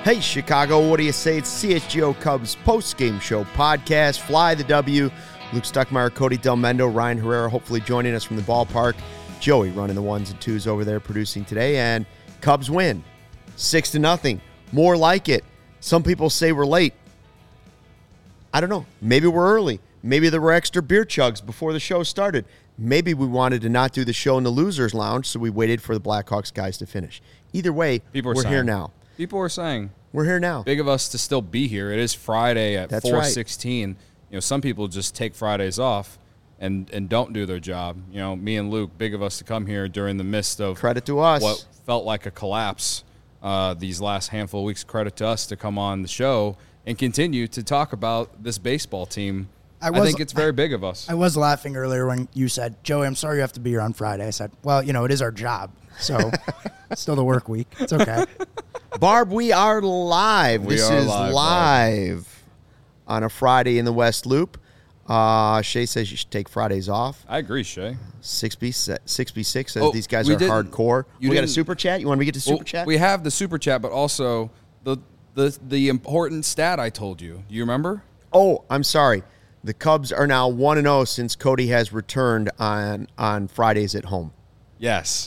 Hey, Chicago, what do you say? It's CHGO Cubs post-game show podcast. Fly the W. Luke Stuckmeyer, Cody Del Mendo, Ryan Herrera hopefully joining us from the ballpark. Joey running the ones and twos over there producing today. And Cubs win 6-0. More like it. Some people say we're late. I don't know. Maybe we're early. Maybe there were extra beer chugs before the show started. Maybe we wanted to not do the show in the Losers Lounge, so we waited for the Blackhawks guys to finish. Either way, we're here now. People are saying we're here now. Big of us to still be here. It is Friday at 4:16. Right. You know, some people just take Fridays off and don't do their job. You know, me and Luke, big of us to come here during the midst of credit to us. What felt like a collapse these last handful of weeks. Credit to us to come on the show and continue to talk about this baseball team. I think it's very big of us. I was laughing earlier when you said, Joey, I'm sorry you have to be here on Friday. I said, well, you know, it is our job. So it's still the work week. It's okay. Barb, we are live. This is live on a Friday in the West Loop. Shay says you should take Fridays off. I agree, Shay. 6B6 says these guys are hardcore. We got a super chat? You want me to get to super chat? We have the super chat, but also the important stat I told you. Do you remember? Oh, I'm sorry. The Cubs are now 1-0 since Cody has returned on Fridays at home. Yes.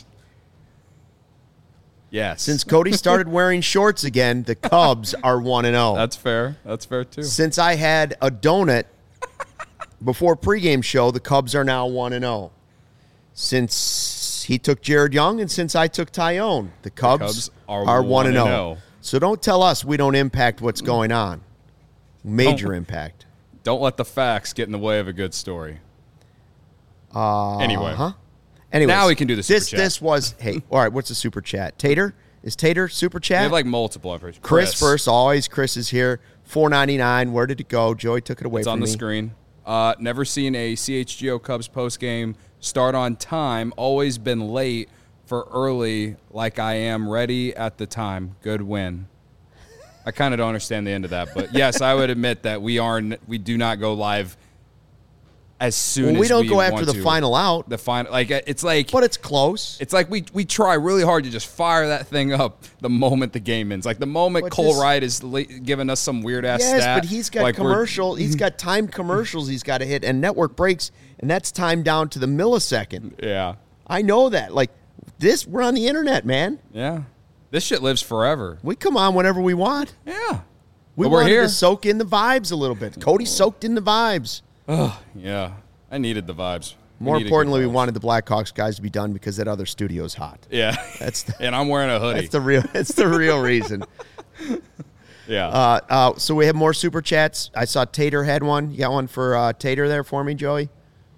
Yes. Since Cody started wearing shorts again, the Cubs are 1-0. That's fair. That's fair, too. Since I had a donut before pregame show, the Cubs are now 1-0. Since he took Jared Young and since I took Tyone, the Cubs are 1-0. So don't tell us we don't impact what's going on. Major impact. Don't let the facts get in the way of a good story. Anyway. Anyways, now we can do the super chat. This was, hey, all right, what's the super chat? Tater? Is Tater super chat? We have like multiple efforts. Chris first, always. Chris is here. $4.99. Where did it go? Joey took it away from me. It's on the screen. Never seen a CHGO Cubs postgame start on time. Always been late for early like I am ready at the time. Good win. I kind of don't understand the end of that, but yes, I would admit that we do not go live as soon as we don't go want after the to. final out. The final, like it's like, but it's close. It's like we try really hard to just fire that thing up the moment the game ends. Like the moment Cole Wright is giving us some weird ass stat. Yes, but he's got commercial. He's got timed commercials. He's got to hit and network breaks, and that's timed down to the millisecond. Yeah, I know that. Like this, we're on the internet, man. Yeah. This shit lives forever. We come on whenever we want. Yeah. We wanted to soak in the vibes a little bit. Cody soaked in the vibes. Oh, yeah. I needed the vibes. More importantly, we wanted the Blackhawks guys to be done because that other studio's hot. Yeah. And I'm wearing a hoodie. That's the real reason. Yeah. So we have more super chats. I saw Tater had one. You got one for Tater there for me, Joey?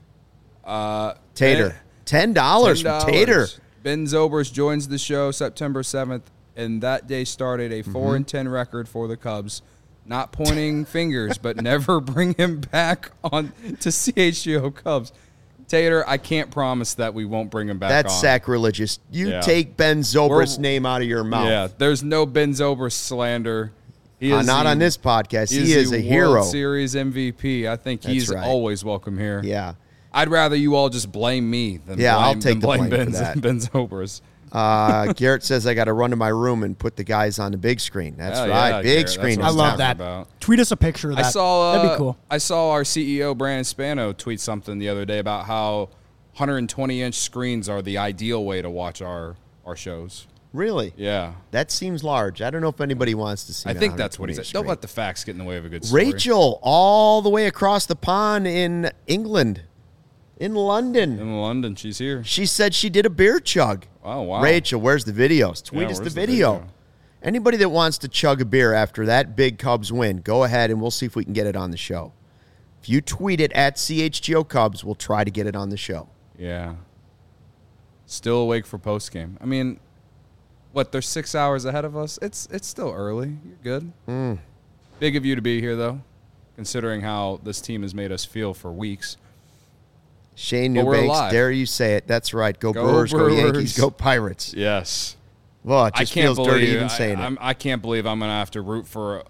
Tater. $10 from Tater. Ben Zobrist joins the show September 7th, and that day started a 4-10 record for the Cubs. Not pointing fingers, but never bring him back on to CHGO Cubs. Tater, I can't promise that we won't bring him back That's on. sacrilegious. Take Ben Zobrist's name out of your mouth. Yeah, there's no Ben Zobrist slander. He is not on this podcast. He is a hero. World Series MVP. I think he's always welcome here. Yeah. I'd rather you all just blame me than I'll take the blame Ben, for that. Ben Zobrist. Garrett says I got to run to my room and put the guys on the big screen. That's right, yeah, big Garrett, screen. I love that. Tweet us a picture of that. That'd be cool. I saw our CEO Brandon Spano tweet something the other day about how 120-inch screens are the ideal way to watch our shows. Really? Yeah. That seems large. I don't know if anybody wants to see. I think that's what he said. Don't let the facts get in the way of a good story. Rachel, all the way across the pond in England. In London. In London, she's here. She said she did a beer chug. Oh, wow. Rachel, where's the videos? Tweet us the video. Anybody that wants to chug a beer after that big Cubs win, go ahead and we'll see if we can get it on the show. If you tweet it at CHGO Cubs, we'll try to get it on the show. Yeah. Still awake for postgame. I mean, they're 6 hours ahead of us? It's still early. You're good. Big of you to be here, though, considering how this team has made us feel for weeks. Shane Newbanks, dare you say it. That's right. Go Brewers, go Yankees, go Pirates. Yes. Well, it just feels dirty even saying it. I can't believe I'm going to have to root for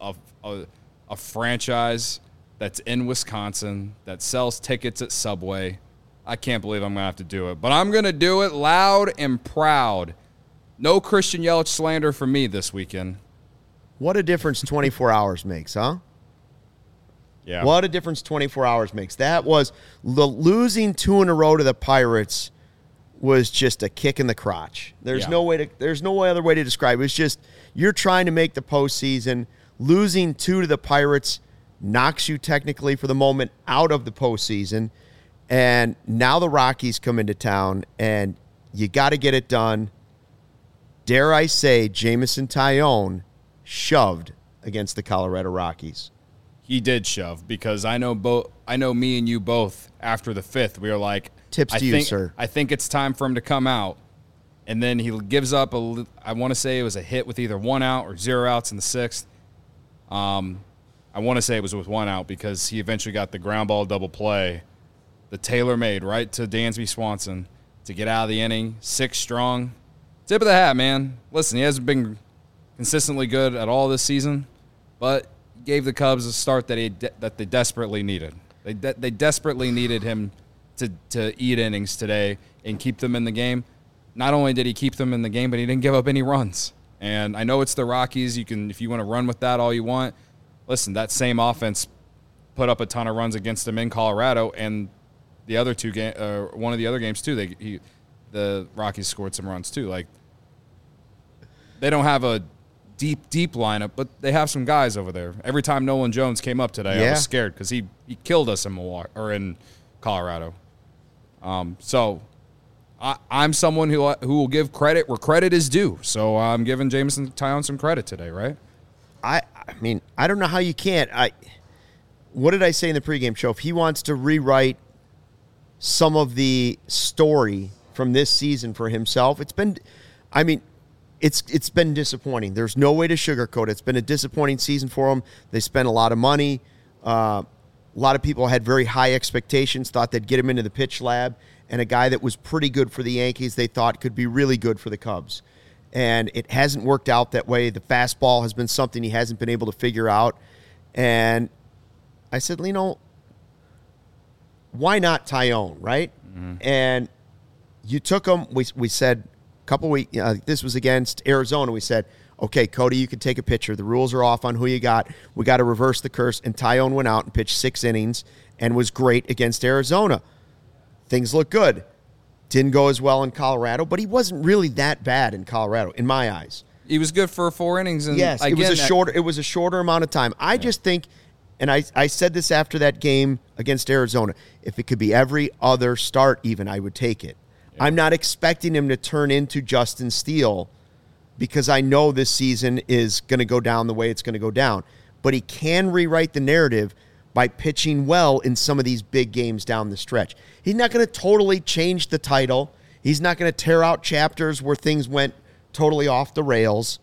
a franchise that's in Wisconsin, that sells tickets at Subway. I can't believe I'm going to have to do it. But I'm going to do it loud and proud. No Christian Yelich slander for me this weekend. What a difference 24 hours makes, huh? Yeah. What a difference 24 hours makes. That was losing 2 in a row to the Pirates was just a kick in the crotch. There's no other way to describe it. It's just you're trying to make the postseason. Losing 2 to the Pirates knocks you technically for the moment out of the postseason. And now the Rockies come into town, and you got to get it done. Dare I say, Jameson Taillon shoved against the Colorado Rockies. He did shove, because I know me and you both after the 5th, we were like, tips to you, sir. I think it's time for him to come out. And then he gives up I want to say it was a hit with either 1 out or 0 outs in the 6th. I want to say it was with 1 out, because he eventually got the ground ball double play, the tailor-made right to Dansby Swanson to get out of the inning, 6 strong. Tip of the hat, man. Listen, he hasn't been consistently good at all this season, but gave the Cubs a start that they desperately needed. They desperately needed him to eat innings today and keep them in the game. Not only did he keep them in the game, but he didn't give up any runs. And I know it's the Rockies. If you want to run with that all you want. Listen, that same offense put up a ton of runs against them in Colorado, and the other one of the other games too. The Rockies scored some runs too. Like, they don't have a deep lineup, but they have some guys over there. Every time Nolan Jones came up today, I was scared, because he killed us in Colorado. So I'm someone who will give credit where credit is due. So I'm giving Jameson Taillon some credit today, right? I mean, I don't know how you can't. What did I say in the pregame show? If he wants to rewrite some of the story from this season for himself, it's been disappointing. There's no way to sugarcoat it. It's been a disappointing season for him. They spent a lot of money. A lot of people had very high expectations, thought they'd get him into the pitch lab, and a guy that was pretty good for the Yankees they thought could be really good for the Cubs. And it hasn't worked out that way. The fastball has been something he hasn't been able to figure out. And I said, why not Taillon, right? Mm-hmm. And you took him. We said a couple weeks, this was against Arizona. We said, okay, Cody, you can take a pitcher. The rules are off on who you got. We got to reverse the curse. And Taillon went out and pitched 6 innings and was great against Arizona. Things look good. Didn't go as well in Colorado, but he wasn't really that bad in Colorado, in my eyes. He was good for 4 innings. And yes, again, it was a shorter amount of time. I just think, and I said this after that game against Arizona, if it could be every other start even, I would take it. Yeah. I'm not expecting him to turn into Justin Steele, because I know this season is going to go down the way it's going to go down. But he can rewrite the narrative by pitching well in some of these big games down the stretch. He's not going to totally change the title. He's not going to tear out chapters where things went totally off the rails.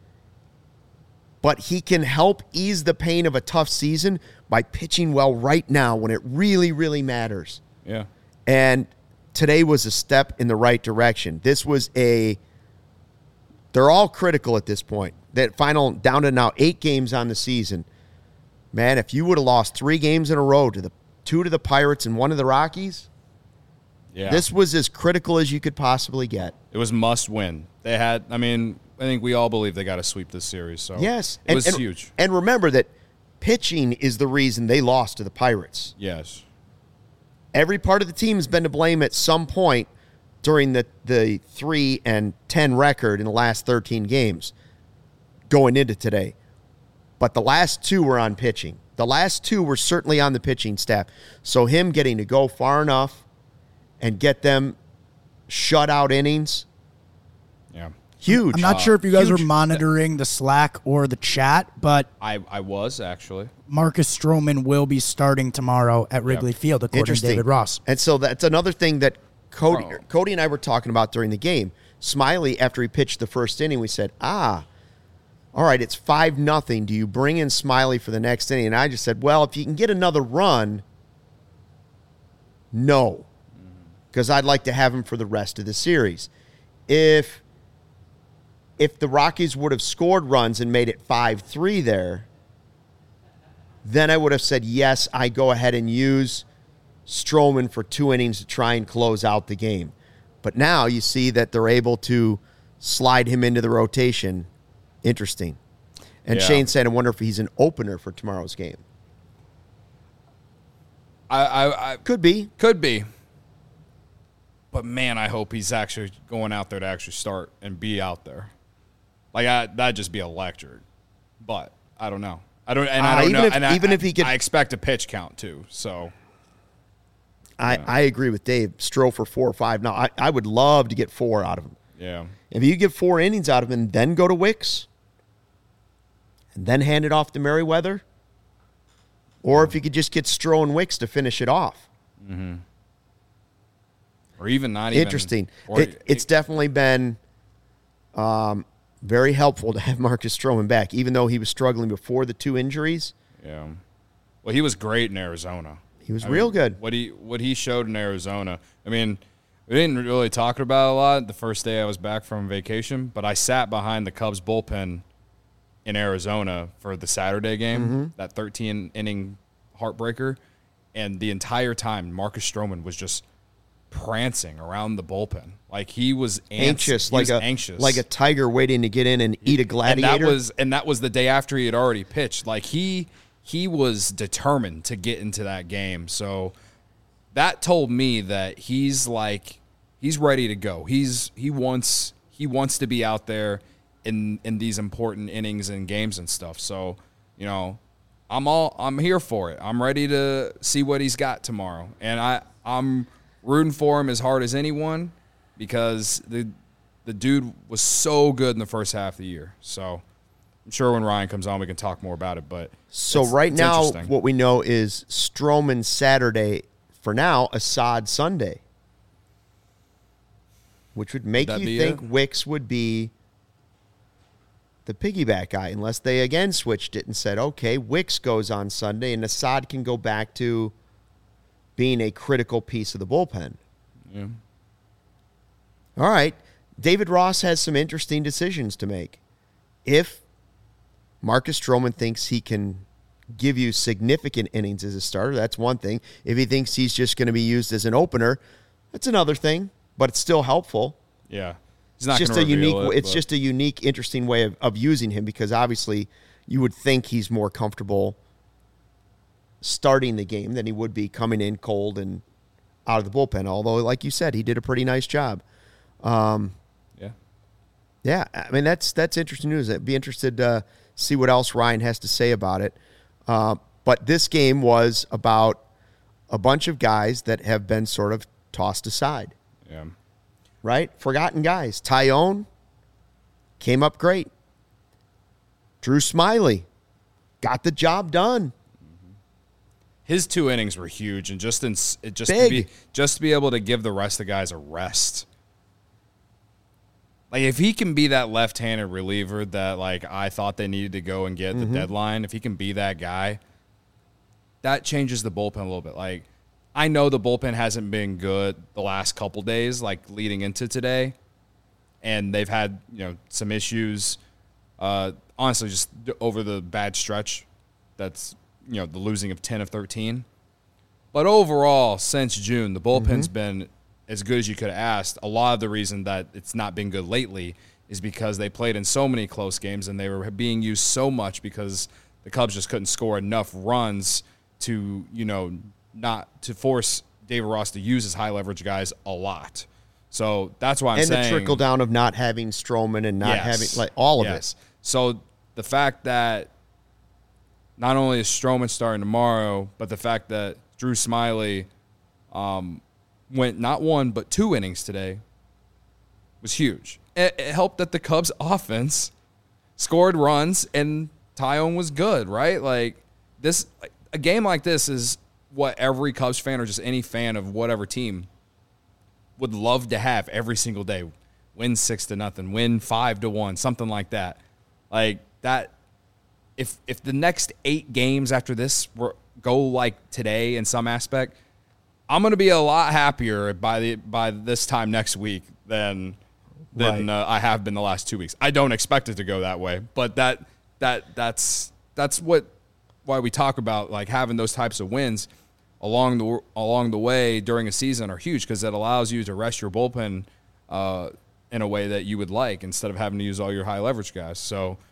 But he can help ease the pain of a tough season by pitching well right now when it really, really matters. Yeah. And today was a step in the right direction. They're all critical at this point. That final, down to now 8 games on the season. Man, if you would have lost 3 games in a row to 2 to the Pirates and 1 to the Rockies, this was as critical as you could possibly get. It was must win. I think we all believe they got to sweep this series. So yes, it was huge. And remember that pitching is the reason they lost to the Pirates. Yes. Every part of the team has been to blame at some point during the 3-10 record in the last 13 games going into today. But the last 2 were on pitching. The last 2 were certainly on the pitching staff. So him getting to go far enough and get them shutout innings, huge. I'm not sure if you guys were monitoring the Slack or the chat, but I was, actually. Marcus Stroman will be starting tomorrow at Wrigley Field, according to David Ross. And so that's another thing that Cody and I were talking about during the game. Smiley, after he pitched the first inning, we said, all right, it's 5-0. Do you bring in Smiley for the next inning? And I just said, well, if you can get another run, no. Because I'd like to have him for the rest of the series. If the Rockies would have scored runs and made it 5-3 there, then I would have said, yes, I go ahead and use Stroman for 2 innings to try and close out the game. But now you see that they're able to slide him into the rotation. Interesting. And Yeah. Shane said, I wonder if he's an opener for tomorrow's game. I Could be. could be. But, man, I hope he's actually going out there to actually start and be out there. Like, that'd just be electric. But I don't know. I don't even know. if- And even if he could- I expect a pitch count, too. So, I agree with Dave. Stroh for 4 or 5. Now, I would love to get 4 out of him. yeah. If you get 4 innings out of him and then go to Wicks and then hand it off to Merriweather, or if you could just get Stroh and Wicks to finish it off. Or even not even. Interesting. Or, It's definitely been very helpful to have Marcus Stroman back, even though he was struggling before the 2 injuries. yeah. Well, he was great in Arizona. He was real good. What he showed in Arizona. I mean, we didn't really talk about it a lot the first day I was back from vacation, but I sat behind the Cubs bullpen in Arizona for the Saturday game, that 13-inning heartbreaker, and the entire time Marcus Stroman was just prancing around the bullpen. Like he was Anxious, He was like anxious. a tiger waiting to get in and eat a gladiator. And that was the day after he had already pitched. Like he was determined to get into that game. So that told me that he's ready to go. He wants to be out there in these important innings and games and stuff. So, you know, I'm here for it. I'm ready to see what he's got tomorrow. And I'm rooting for him as hard as anyone because the dude was so good in the first half of the year. So I'm sure when Ryan comes on, we can talk more about it. But so it's now interesting. what we know is Stroman Saturday for now, Assad Sunday, which would make That'd you be think it? Wicks would be the piggyback guy, unless they again switched it and said, okay, Wicks goes on Sunday and Assad can go back to being a critical piece of the bullpen. Yeah. All right. David Ross has some interesting decisions to make. If Marcus Stroman thinks he can give you significant innings as a starter, that's one thing. If he thinks he's just going to be used as an opener, that's another thing, but it's still helpful. Yeah. He's not It's just gonna a unique reveal it, it's but- just a unique, interesting way of using him because obviously you would think he's more comfortable starting the game than he would be coming in cold and out of the bullpen. Although, like you said, he did a pretty nice job. yeah. Yeah, I mean that's interesting news. I'd be interested to see what else Ryan has to say about it. But this game was about a bunch of guys that have been sort of tossed aside, Yeah. right? Forgotten guys. Tyone came up great. Drew Smiley got the job done. His 2 innings were huge, and just Big. to be able to give the rest of the guys a rest. Like if he can be that left-handed reliever that like I thought they needed to go and get at the deadline, if he can be that guy, that changes the bullpen a little bit. Like I know the bullpen hasn't been good the last couple days, like leading into today, and they've had some issues. Honestly, just over the bad stretch, that's the losing of 10 of 13. But overall, since June, the bullpen's been as good as you could have asked. A lot of the reason that it's not been good lately is because they played in so many close games and they were being used so much because the Cubs just couldn't score enough runs to, not to force David Ross to use his high leverage guys a lot. So that's why I'm saying. And the trickle down of not having Stroman and not having like all of it. So the fact that not only is Stroman starting tomorrow, but the fact that Drew Smiley went not 1 but 2 innings today was huge. It helped that the Cubs offense scored runs and Tyone was good, right? Like this, a game like this is what every Cubs fan or just any fan of whatever team would love to have every single day. Win 6-0, win 5-1, something like that. Like that. If the next 8 games after this go like today in some aspect, I'm going to be a lot happier by this time next week than I have been the last 2 weeks. I don't expect it to go that way, but that's why we talk about like having those types of wins along the way during a season are huge because it allows you to rest your bullpen in a way that you would like instead of having to use all your high leverage guys. So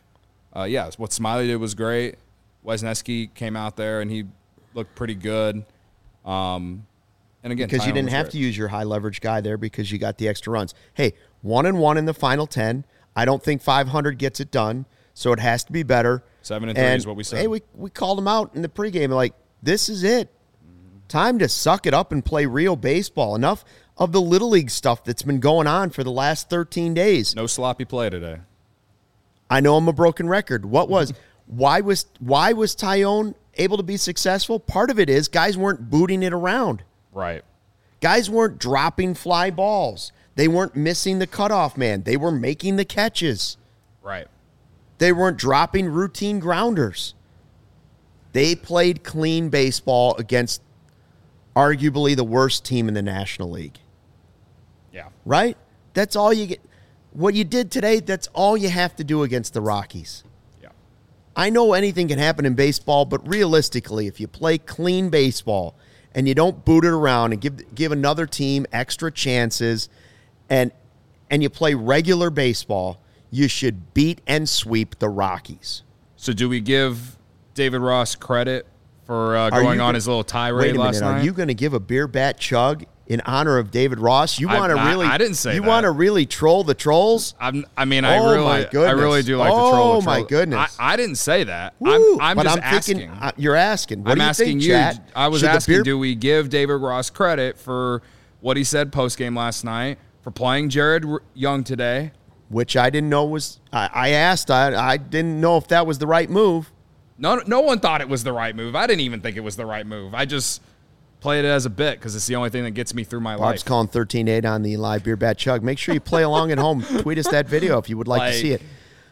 what Smiley did was great. Wisniewski came out there and he looked pretty good. And again, because you didn't have to use your high leverage guy there because you got the extra runs. Hey, 1-1 in the final 10. I don't think 500 gets it done, so it has to be better. 7-3 is what we said. Hey, we called him out in the pregame. Like, this is it. Time to suck it up and play real baseball. Enough of the Little League stuff that's been going on for the last 13 days. No sloppy play today. I know I'm a broken record. Why was Tyone able to be successful? Part of it is guys weren't booting it around. Right. Guys weren't dropping fly balls. They weren't missing the cutoff man. They were making the catches. Right. They weren't dropping routine grounders. They played clean baseball against arguably the worst team in the National League. Yeah. Right? That's all you get. What you did today, that's all you have to do against the Rockies. Yeah. I know anything can happen in baseball, but realistically, if you play clean baseball and you don't boot it around and give another team extra chances and you play regular baseball, you should beat and sweep the Rockies. So do we give David Ross credit for going on his little tirade last night? Are you going to give a beer bat chug in honor of David Ross? You want to really? I didn't say you that. want to really troll the trolls? I really do like Oh, to troll the trolls. my goodness. I didn't say that. Woo, I'm but just I'm asking. thinking, you're asking. What I'm do you asking think, you. chat? I was Should the asking, beer- do we give David Ross credit for what he said post-game last night, for playing Jared Young today? Which I didn't know was. I asked. I didn't know if that was the right move. No one thought it was the right move. I didn't even think it was the right move. I just played it as a bit because it's the only thing that gets me through my Barb's life. calling 13-8 on the live beer bat chug. Make sure you play along at home. Tweet us that video if you would like to see it.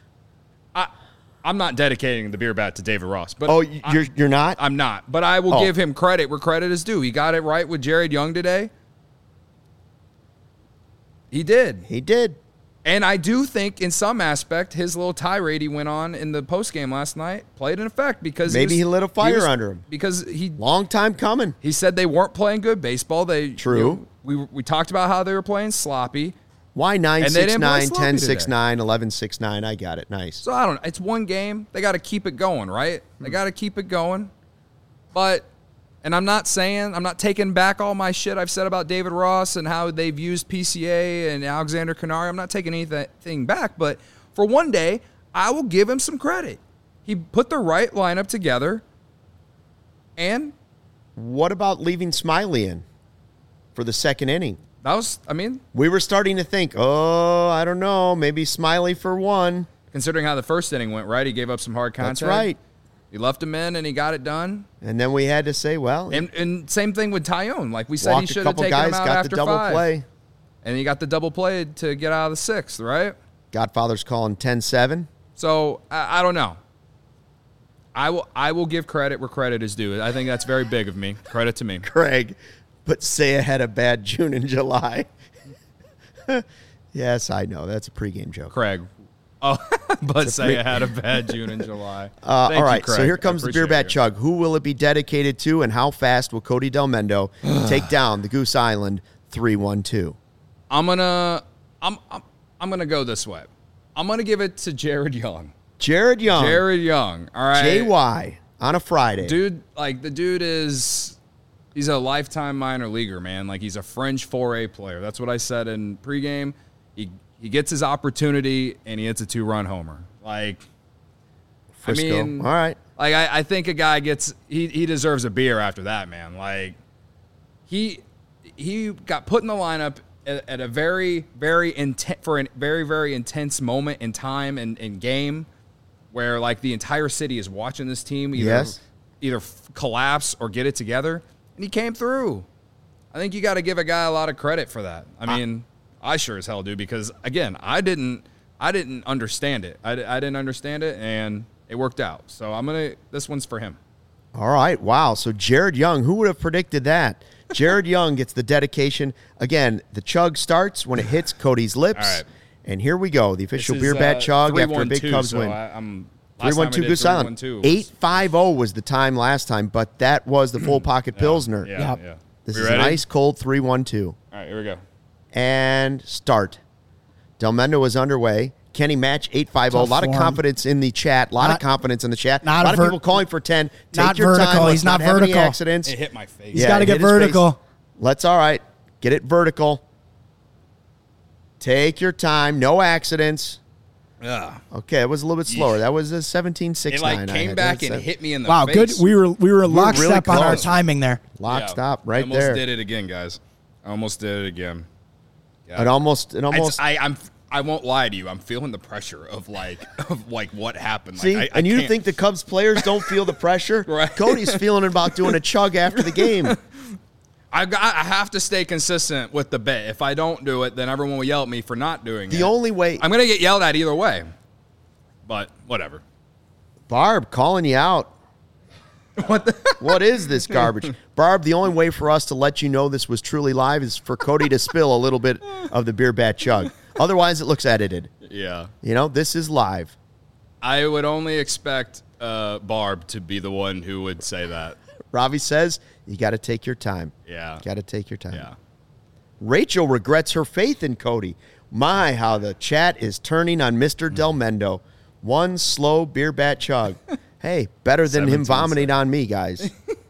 I'm not dedicating the beer bat to David Ross. But You're not? I'm not. But I will give him credit where credit is due. He got it right with Jared Young today. He did. He did. And I do think in some aspect his little tirade he went on in the postgame last night played an effect because Maybe he lit a fire under him. Because Long time coming. he said they weren't playing good baseball. True. We talked about how they were playing sloppy. Why 9-6-9, they didn't play sloppy 10-6-9, 11-6-9? I got it. Nice. So I don't know. It's one game. They got to keep it going, right? They got to keep it going. And I'm not taking back all my shit I've said about David Ross and how they've used PCA and Alexander Canary. I'm not taking anything back, but for one day, I will give him some credit. He put the right lineup together, and What about leaving Smiley in for the second inning? We were starting to think, I don't know, maybe Smiley for one. Considering how the first inning went, right? He gave up some hard contact. That's right. He left him in, and he got it done. And then we had to say, well, And same thing with Tyone. Like we said, he walked a should have couple taken guys, him out got after the double 5. play. And he got the double play to get out of the 6th, right? Godfather's calling 10-7. So I don't know. I will give credit where credit is due. I think that's very big of me. Credit to me. Craig, but Seiya had a bad June and July. Yes, I know. That's a pregame joke. Craig. Oh, but say I had a bad June and July. All Thank you, right, Craig. so here comes the beer bat you. chug. Who will it be dedicated to, and how fast will Cody Del Mendo take down the Goose Island 3-1-2? I'm gonna go this way. I'm gonna give it to Jared Young. Jared Young. All right. JY on a Friday. Dude, the dude he's a lifetime minor leaguer, man. Like, he's a fringe 4A player. That's what I said in pregame. He gets his opportunity, and he hits a 2-run homer. Like, Frisco. I mean, all right. Like, I think a guy he deserves a beer after that, man. Like, he got put in the lineup at a very, very intense moment in time and game where, like, the entire city is watching this team either collapse or get it together, and he came through. I think you got to give a guy a lot of credit for that. I mean, I sure as hell do, because again, I didn't understand it. I didn't understand it, and it worked out. So this one's for him. All right. Wow. So Jared Young, who would have predicted that? Jared Young gets the dedication. Again, the chug starts when it hits Cody's lips. All right. And here we go. The official beer bat chug after a big Cubs win. 3-1-2 Goose Island. 8-5-0 was the time last time, but that was the full pocket Pilsner. Yeah. This We is ready? an ice cold 3-1-2. All right, here we go. And start. Del Mendo is underway. Kenny Match 850. A lot of confidence in the chat. A lot of confidence in the chat. A lot of people calling for 10. Take your vertical. time. He's not have vertical. Any accidents. It hit my face. He's got to get vertical. Let's, all right. Get it vertical. Take your time. No accidents. Yeah. Okay, it was a little bit slower. That was a 17.69. It like came back and hit me in the wow, face. good. We were lockstep really on our close. timing there. Lock, stop, right I almost there. did it again, guys. I almost did it again. Yeah. It almost. I won't lie to you. I'm feeling the pressure of like what happened. See, like, and you can't- think the Cubs players don't feel the pressure? Right. Cody's feeling about doing a chug after the game. I have to stay consistent with the bit. If I don't do it, then everyone will yell at me for not doing it. The only way. I'm gonna get yelled at either way. But whatever. Barb calling you out. What is this garbage? Barb, the only way for us to let you know this was truly live is for Cody to spill a little bit of the beer bat chug. Otherwise, it looks edited. Yeah. You know, this is live. I would only expect Barb to be the one who would say that. Ravi says, you got to take your time. Yeah. Got to take your time. Yeah. Rachel regrets her faith in Cody. My, how the chat is turning on Mr. Del Mendo. One slow beer bat chug. Hey, better than him 17 vomiting on me, guys.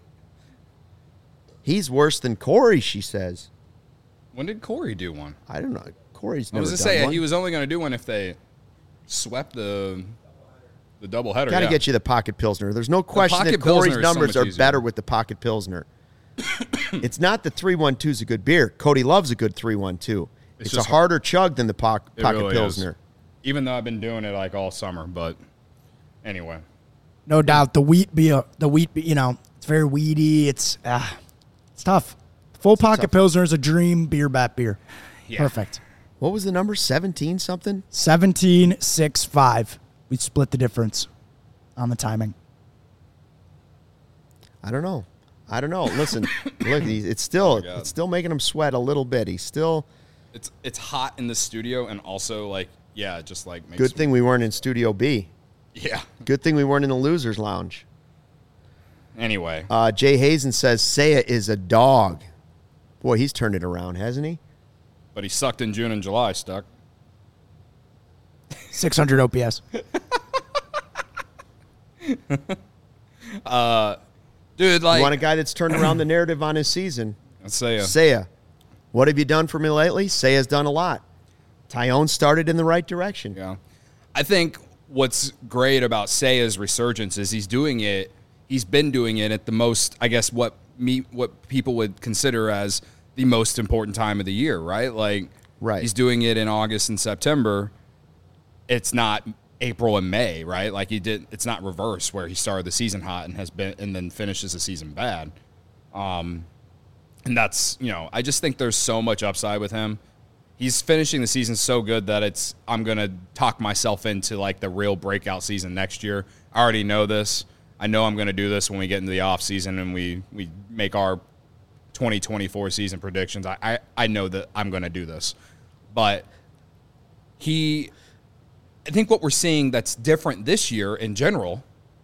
He's worse than Corey, she says. When did Corey do one? I don't know. Corey's I never was done to say one. he was only going to do one if they swept the doubleheader. Got to get you the Pocket Pilsner. There's no question that Pocket Corey's Pilsner is so numbers much are easier. better with the Pocket Pilsner. It's not the 312 is a good beer. Cody loves a good 312. It's a just harder chug than the Pocket really Pilsner. is. Even though I've been doing it like all summer, but anyway. No doubt. The wheat beer, you know, it's very weedy. It's tough. Full Pocket Pilsner is a dream beer bat beer. Yeah. Perfect. What was the number? 17 something? 17.65. We split the difference on the timing. I don't know. Listen, look, it's still making him sweat a little bit. He's still. It's hot in the studio and also like just like makes Good thing we weren't in Studio B. Yeah. Good thing we weren't in the Losers Lounge. Anyway. Jay Hazen says Seiya is a dog. Boy, he's turned it around, hasn't he? But he sucked in June and July, Stuck. 600 OPS. Dude, like You want a guy that's turned around the narrative on his season? let's say Seiya. What have you done for me lately? Seiya's done a lot. Tyone started in the right direction. yeah. I think what's great about Seiya's resurgence is he's been doing it at the most, I guess, what people would consider as the most important time of the year, right? Like, Right. he's doing it in August and September. It's not April and May, right? Like it's not reverse where he started the season hot and then finishes the season bad. And that's, I just think there's so much upside with him. He's finishing the season so good that I'm going to talk myself into like the real breakout season next year. I already know this. I know I'm going to do this when we get into the off season and we make our 2024 season predictions. I know that I'm going to do this. But I think what we're seeing that's different this year in general,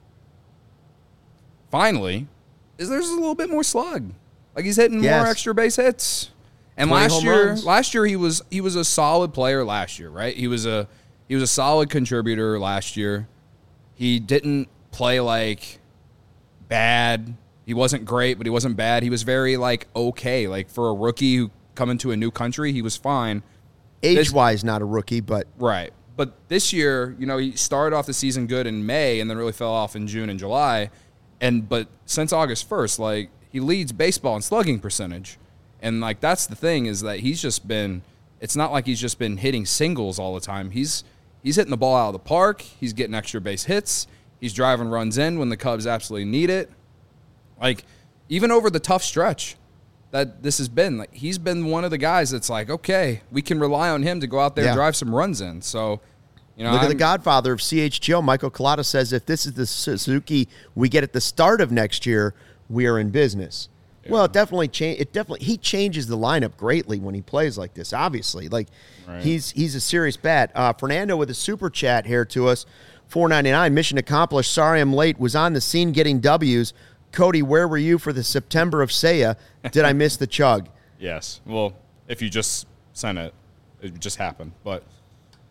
finally, is there's a little bit more slug. Like he's hitting more extra base hits. And 20 last home year runs. he was a solid player last year, right? He was a solid contributor last year. He didn't play like bad. He wasn't great, but he wasn't bad. He was very like okay. Like for a rookie who come into a new country, he was fine. Age-wise, not a rookie, but Right. But this year, he started off the season good in May and then really fell off in June and July. But since August 1st, like he leads baseball in slugging percentage. And like that's the thing is that it's not like he's just been hitting singles all the time. He's hitting the ball out of the park. He's getting extra base hits. He's driving runs in when the Cubs absolutely need it. Like even over the tough stretch that this has been, like he's been one of the guys that's like, okay, we can rely on him to go out there and drive some runs in. So, look at the godfather of CHGO, Michael Collada says, if this is the Suzuki we get at the start of next year, we are in business. Yeah. Well, he changes the lineup greatly when he plays like this, obviously. Like right. he's a serious bat. Fernando with a super chat here to us, $4.99, mission accomplished. Sorry I'm late, was on the scene getting W's. Cody, where were you for the September of Seiya? Did I miss the chug? Yes. Well, if you just sent it, it just happened. But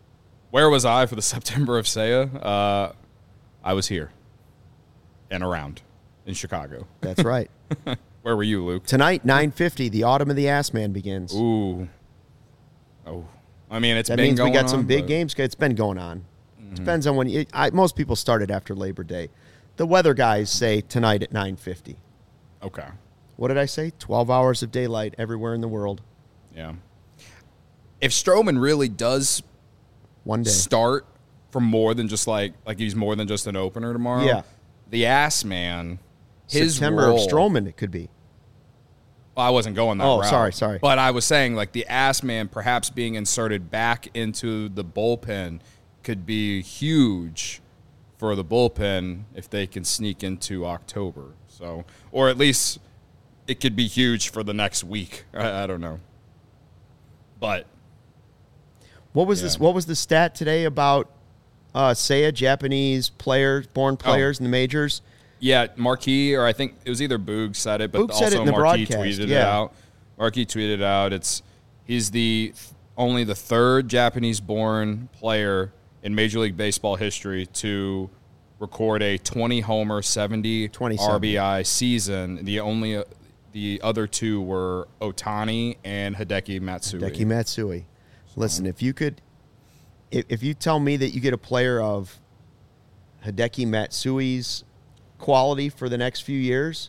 Where was I for the September of Seiya? I was here and around in Chicago. That's right. Where were you, Luke? Tonight, 9:50, the Autumn of the Ass Man begins. Ooh. Oh. I mean, that been means going we got some on, big but- games. It's been going on. Depends on when most people started after Labor Day. The weather guys say tonight at 9:50. Okay. What did I say? 12 hours of daylight everywhere in the world. Yeah. If Strowman really does One day. start for more than just like he's more than just an opener tomorrow, Yeah. the Ass Man, his September role, of Strowman, it could be. I wasn't going that Oh, route. sorry. But I was saying, like, the Ass Man perhaps being inserted back into the bullpen could be huge for the bullpen if they can sneak into October. So, or at least it could be huge for the next week. I don't know. But What was Yeah. this? What was the stat today about Seiya, Japanese players, born players in the majors? yeah, Marquis, or I think it was either Boog said it, but Boog said also it in the Marquis broadcast, tweeted it yeah. out. Marquis tweeted it out. He's only the third Japanese-born player in Major League Baseball history to record a 20-homer, 70 27. RBI season. The other two were Otani and Hideki Matsui. Hideki Matsui. Listen, if you tell me that you get a player of Hideki Matsui's quality for the next few years,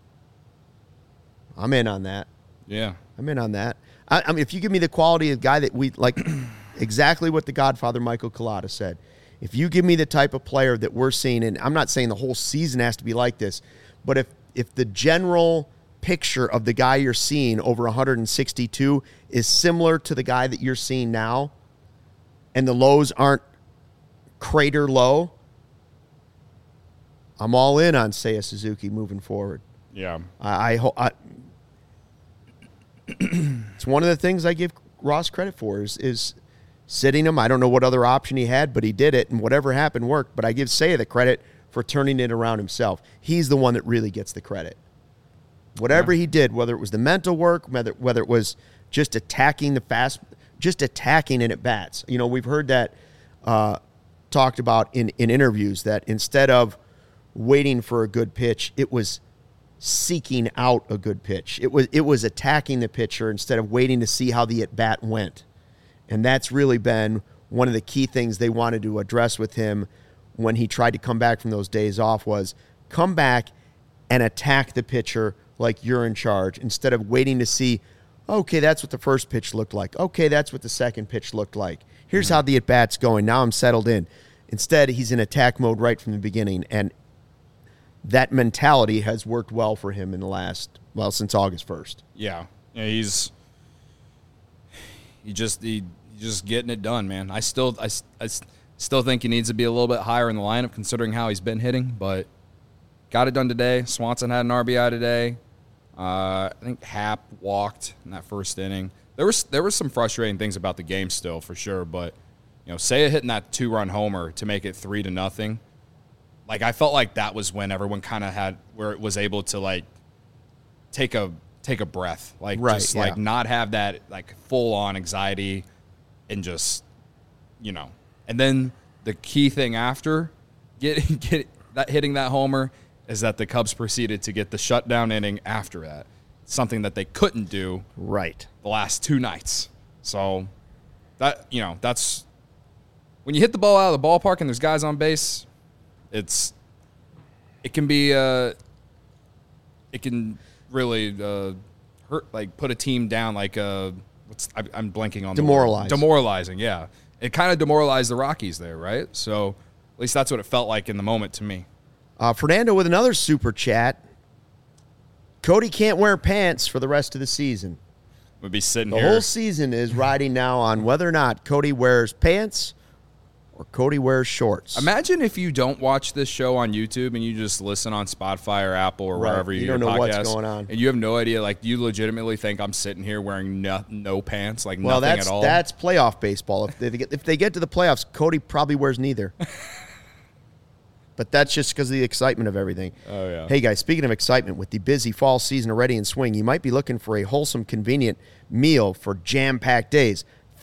I'm in on that. Yeah. I'm in on that. I mean, if you give me the quality of guy that we like, exactly what the Godfather Michael Collada said. If you give me the type of player that we're seeing, and I'm not saying the whole season has to be like this, but if the general picture of the guy you're seeing over 162 is similar to the guy that you're seeing now, and the lows aren't crater low, I'm all in on Seiya Suzuki moving forward. Yeah. It's one of the things I give Ross credit for is sitting him. I don't know what other option he had, but he did it, and whatever happened worked. But I give Seiya the credit for turning it around himself. He's the one that really gets the credit. Whatever he did, whether it was the mental work, whether it was just attacking just attacking in at bats. You know, we've heard that talked about in interviews, that instead of waiting for a good pitch, it was seeking out a good pitch. It was attacking the pitcher instead of waiting to see how the at bat went. And that's really been one of the key things they wanted to address with him when he tried to come back from those days off, was come back and attack the pitcher like you're in charge, instead of waiting to see, okay, that's what the first pitch looked like. Okay, that's what the second pitch looked like. Here's how the at-bat's going. Now I'm settled in. Instead, he's in attack mode right from the beginning, and that mentality has worked well for him in the since August 1st. Yeah. He's just getting it done, man. I still think he needs to be a little bit higher in the lineup considering how he's been hitting, but got it done today. Swanson had an RBI today. I think Happ walked in that first inning. There were some frustrating things about the game still, for sure, but Seiya hitting that 2-run homer to make it 3-0. Like, I felt like that was when everyone kind of had where it was able to like take a breath, like like not have that like full on anxiety, and just And then the key thing after hitting that homer is that the Cubs proceeded to get the shutdown inning after that, something that they couldn't do right the last two nights. So that that's when you hit the ball out of the ballpark and there's guys on base. It can really hurt, like put a team down, like I'm blanking on demoralizing. Yeah, it kind of demoralized the Rockies there, right? So at least that's what it felt like in the moment to me. Fernando with another super chat. Cody can't wear pants for the rest of the season. We'll be sitting the here. whole season is riding now on whether or not Cody wears pants or Cody wears shorts. Imagine if you don't watch this show on YouTube and you just listen on Spotify or Apple or wherever you don't know what's going on, and you have no idea. Like, you legitimately think I'm sitting here wearing no pants, like nothing at all. That's playoff baseball. If they get to the playoffs, Cody probably wears neither. But that's just because of the excitement of everything. Oh, yeah. Hey, guys, speaking of excitement, with the busy fall season already in swing, you might be looking for a wholesome, convenient meal for jam-packed days.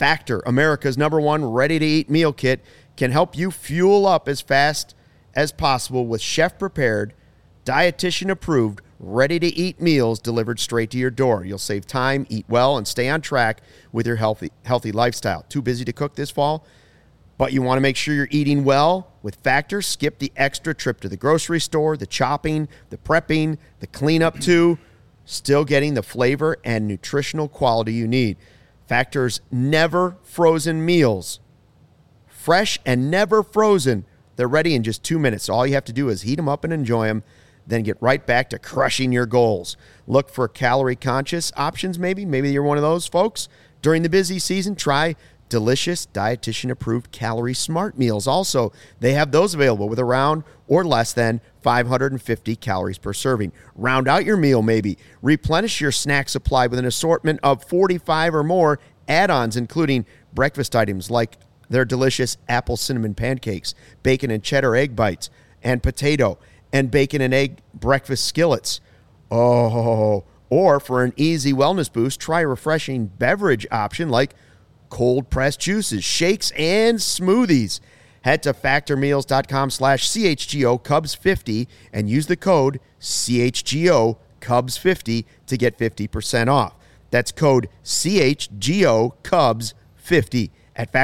Factor, America's #1 ready-to-eat meal kit, can help you fuel up as fast as possible with chef-prepared, dietitian-approved, ready-to-eat meals delivered straight to your door. You'll save time, eat well, and stay on track with your healthy lifestyle. Too busy to cook this fall? But you want to make sure you're eating well? With Factor, skip the extra trip to the grocery store, the chopping, the prepping, the cleanup too. Still getting the flavor and nutritional quality you need. Factor's never frozen meals. Fresh and never frozen. They're ready in just 2 minutes. All you have to do is heat them up and enjoy them, then get right back to crushing your goals. Look for calorie-conscious options maybe. Maybe you're one of those folks. During the busy season, try delicious, dietitian-approved Calorie Smart meals. Also, they have those available with around or less than 550 calories per serving. Round out your meal maybe. Replenish your snack supply with an assortment of 45 or more add-ons, including breakfast items like their delicious apple cinnamon pancakes, bacon and cheddar egg bites, and potato and bacon and egg breakfast skillets. Oh, or for an easy wellness boost, try a refreshing beverage option like cold-pressed juices, shakes, and smoothies. Head to factormeals.com/CHGO Cubs50 and use the code CHGO Cubs50 to get 50% off. That's code CHGO Cubs50 at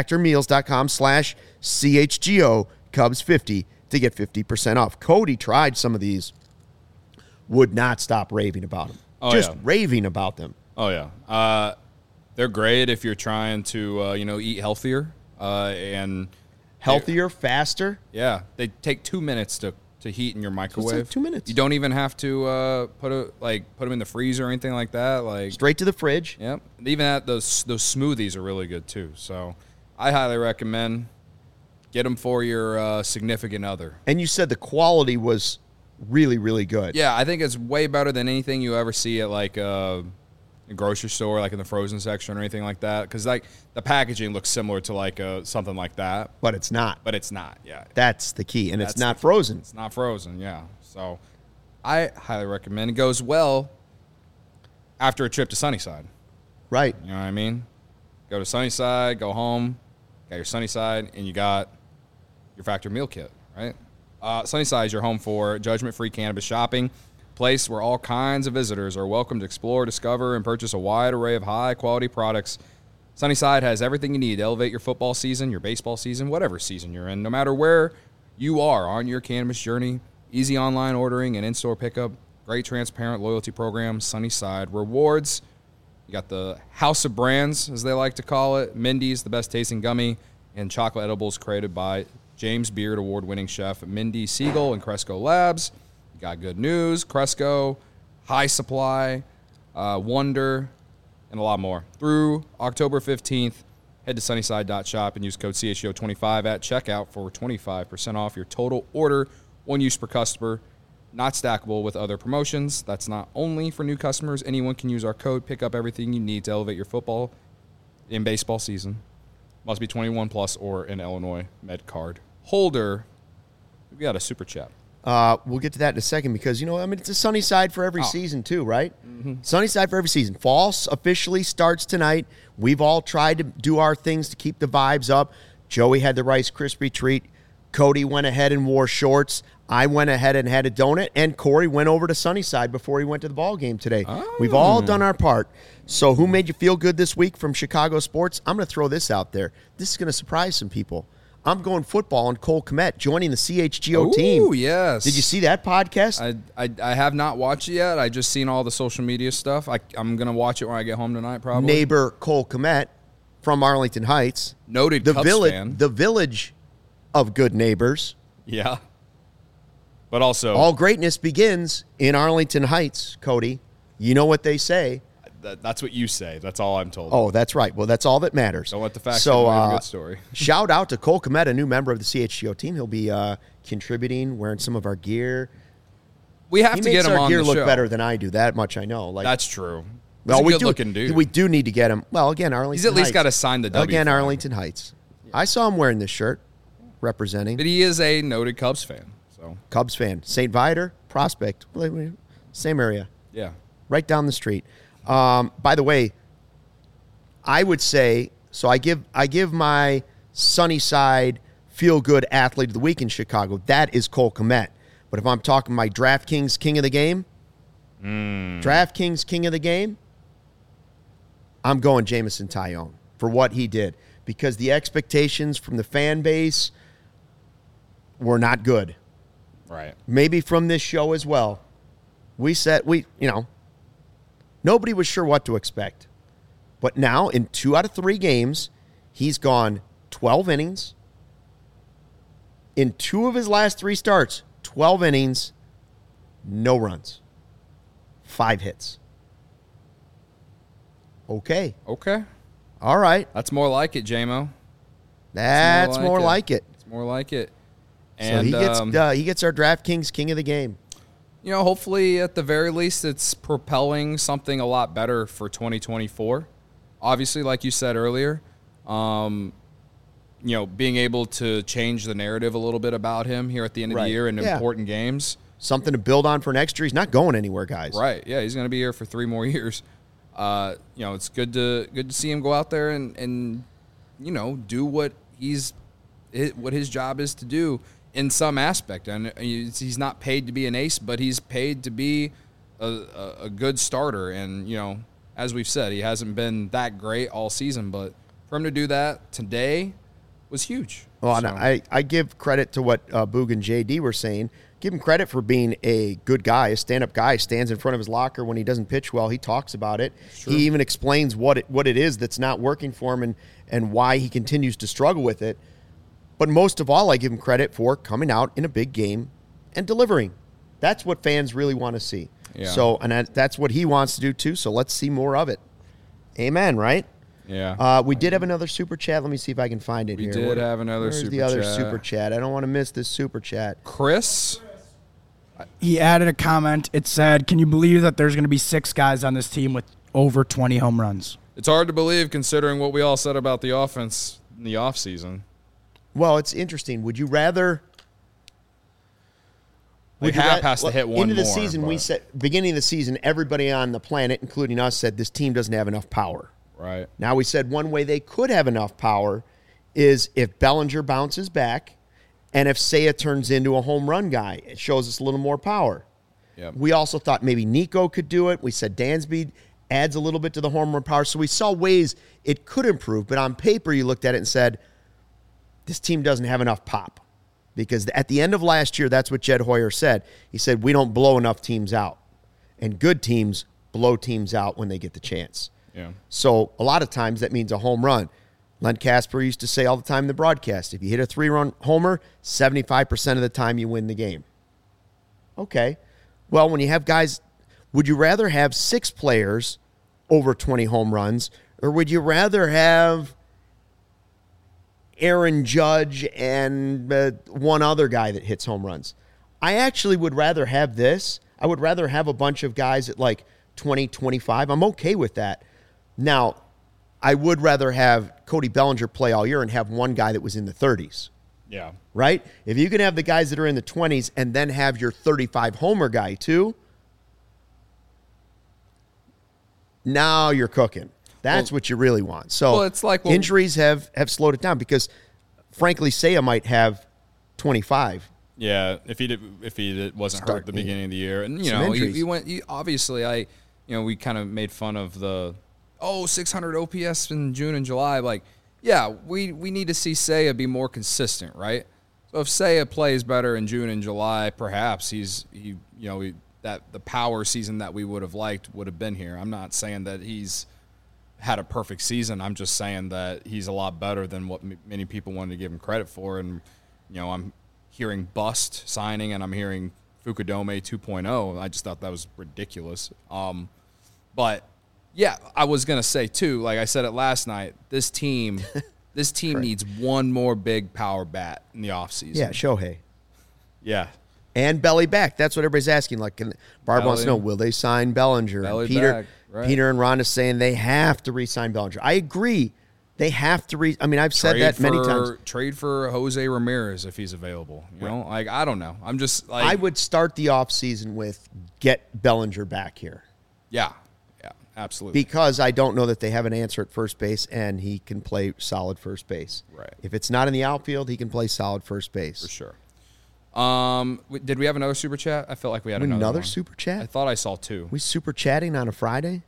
factormeals.com/CHGO Cubs50 to get 50% off. Cody tried some of these, would not stop raving about them. Raving about them. Oh, yeah. They're great if you're trying to, eat healthier and healthier, faster. Yeah, they take 2 minutes to heat in your microwave. So it's like 2 minutes. You don't even have to put them in the freezer or anything like that. Like straight to the fridge. Yep. Even those smoothies are really good too. So I highly recommend get them for your significant other. And you said the quality was really, really good. Yeah, I think it's way better than anything you ever see at like a grocery store, like in the frozen section or anything like that. Because like the packaging looks similar to like something like that, but it's not. Yeah, that's the key, and it's not frozen. It's not frozen. Yeah, so I highly recommend. It goes well after a trip to Sunnyside. Right. You know what I mean? Go to Sunnyside, go home, got your Sunnyside, and you got your Factor meal kit. Right. Sunnyside is your home for judgment-free cannabis shopping. Place where all kinds of visitors are welcome to explore, discover, and purchase a wide array of high-quality products. Sunnyside has everything you need to elevate your football season, your baseball season, whatever season you're in. No matter where you are on your cannabis journey, easy online ordering and in-store pickup, great transparent loyalty program, Sunnyside Rewards. You got the House of Brands, as they like to call it, Mindy's, the best tasting gummy, and chocolate edibles created by James Beard award-winning chef Mindy Siegel and Cresco Labs. Got good news, Cresco, High Supply, Wonder, and a lot more. Through October 15th, head to sunnyside.shop and use code CHGO25 at checkout for 25% off your total order. One use per customer, not stackable with other promotions. That's not only for new customers. Anyone can use our code. Pick up everything you need to elevate your football and baseball season. Must be 21 plus or an Illinois Med card holder. We got a super chat. We'll get to that in a second because, it's a Sunnyside for every season too, right? Mm-hmm. Sunnyside for every season. Fall officially starts tonight. We've all tried to do our things to keep the vibes up. Joey had the Rice Krispie treat. Cody went ahead and wore shorts. I went ahead and had a donut. And Corey went over to Sunnyside before he went to the ball game today. Oh. We've all done our part. So who made you feel good this week from Chicago sports? I'm going to throw this out there. This is going to surprise some people. I'm going football on Cole Kmet joining the CHGO team. Oh, yes. Did you see that podcast? I have not watched it yet. I just seen all the social media stuff. I'm going to watch it when I get home tonight, probably. Neighbor Cole Kmet from Arlington Heights. Noted Cubs fan. The village of good neighbors. Yeah. But also, all greatness begins in Arlington Heights, Cody. You know what they say. That's what you say. That's all I'm told. Oh, that's right. Well, that's all that matters. Don't let the facts give away a good story. Shout out to Cole Kmet, a new member of the CHGO team. He'll be contributing, wearing some of our gear. We have to get him on the show. He makes our gear look better than I do. That much I know. That's true. Well, He's a good-looking dude. We do need to get him. Well, again, Arlington Heights. He's at least got to sign the W. Again, Arlington Heights. Yeah. I saw him wearing this shirt, representing. But he is a noted Cubs fan. So Cubs fan. St. Viator, Prospect. Same area. Yeah. Right down the street. By the way, I would say So I give my sunny side feel-good athlete of the week in Chicago. That is Cole Kmet. But if I'm talking my DraftKings king of the game, I'm going Jameson Taillon for what he did. Because the expectations from the fan base were not good. Right. Maybe from this show as well. Nobody was sure what to expect. But now, in 2 out of 3 games, he's gone 12 innings. In 2 of his last 3 starts, 12 innings, no runs, 5 hits. Okay. All right. That's more like it, J-Mo. That's more like it. It's more like it. And so he gets our DraftKings king of the game. Hopefully at the very least it's propelling something a lot better for 2024. Obviously, like you said earlier, being able to change the narrative a little bit about him here at the end of the year in important games. Something to build on for next year. He's not going anywhere, guys. Right. Yeah, he's going to be here for 3 more years. It's good to see him go out there and do what his job is to do in some aspect. And he's not paid to be an ace, but he's paid to be a good starter. And as we've said, he hasn't been that great all season, but for him to do that today was huge. Well, so. I give credit to what Boog and JD were saying. Give him credit for being a good guy, a stand-up guy. Stands in front of his locker when he doesn't pitch well. He talks about it. Sure. He even explains what it is that's not working for him and why he continues to struggle with it. But most of all, I give him credit for coming out in a big game and delivering. That's what fans really want to see. Yeah. So, and that's what he wants to do too. So let's see more of it. Amen, right? Yeah. We did have another super chat. Let me see if I can find it here. We did have another super chat. Where's the other super chat? I don't want to miss this super chat. Chris? He added a comment. It said, can you believe that there's going to be 6 guys on this team with over 20 home runs? It's hard to believe considering what we all said about the offense in the offseason. Well, it's interesting. Would you rather... Hap has to hit one into the more, season, we said, beginning of the season, everybody on the planet, including us, said this team doesn't have enough power. Right. Now we said one way they could have enough power is if Bellinger bounces back and if Seiya turns into a home run guy. It shows us a little more power. Yep. We also thought maybe Nico could do it. We said Dansby adds a little bit to the home run power. So we saw ways it could improve. But on paper, you looked at it and said, this team doesn't have enough pop. Because at the end of last year, that's what Jed Hoyer said. He said, we don't blow enough teams out. And good teams blow teams out when they get the chance. Yeah. So a lot of times that means a home run. Len Casper used to say all the time in the broadcast, if you hit a 3-run homer, 75% of the time you win the game. Okay. Well, when you have guys, would you rather have 6 players over 20 home runs, or would you rather have Aaron Judge and one other guy that hits home runs? I actually would rather have this. I would rather have a bunch of guys at like 20, 25. I'm okay with that. Now, I would rather have Cody Bellinger play all year and have one guy that was in the 30s. Yeah. Right? If you can have the guys that are in the 20s and then have your 35 homer guy too, now you're cooking. That's what you really want. So it's like injuries have slowed it down because, frankly, Seiya might have 25. Yeah, if he wasn't hurt at the beginning of the year, and obviously we kind of made fun of the 600 OPS in June and July. Like, yeah, we need to see Seiya be more consistent, right? So if Seiya plays better in June and July, perhaps that the power season that we would have liked would have been here. I'm not saying that he's had a perfect season. I'm just saying that he's a lot better than what many people wanted to give him credit for. And I'm hearing bust signing, and I'm hearing Fukudome 2.0. I just thought that was ridiculous. But yeah, I was gonna say too, like I said it last night, this team needs one more big power bat in the offseason. Yeah, Shohei. Yeah. And belly back. That's what everybody's asking. Like, Barb wants to know, will they sign Bellinger? Belly Peter, back, right. Peter and Ron is saying they have to re-sign Bellinger. I agree. They have to I've said that many times. Trade for Jose Ramirez if he's available. You know, like, I don't know. I'm just like, I would start the offseason with get Bellinger back here. Yeah. Absolutely. Because I don't know that they have an answer at first base, and he can play solid first base. Right. If it's not in the outfield, he can play solid first base. For sure. Did we have another super chat? I felt like we had Another one. super chat? I thought I saw 2. We super chatting on a Friday?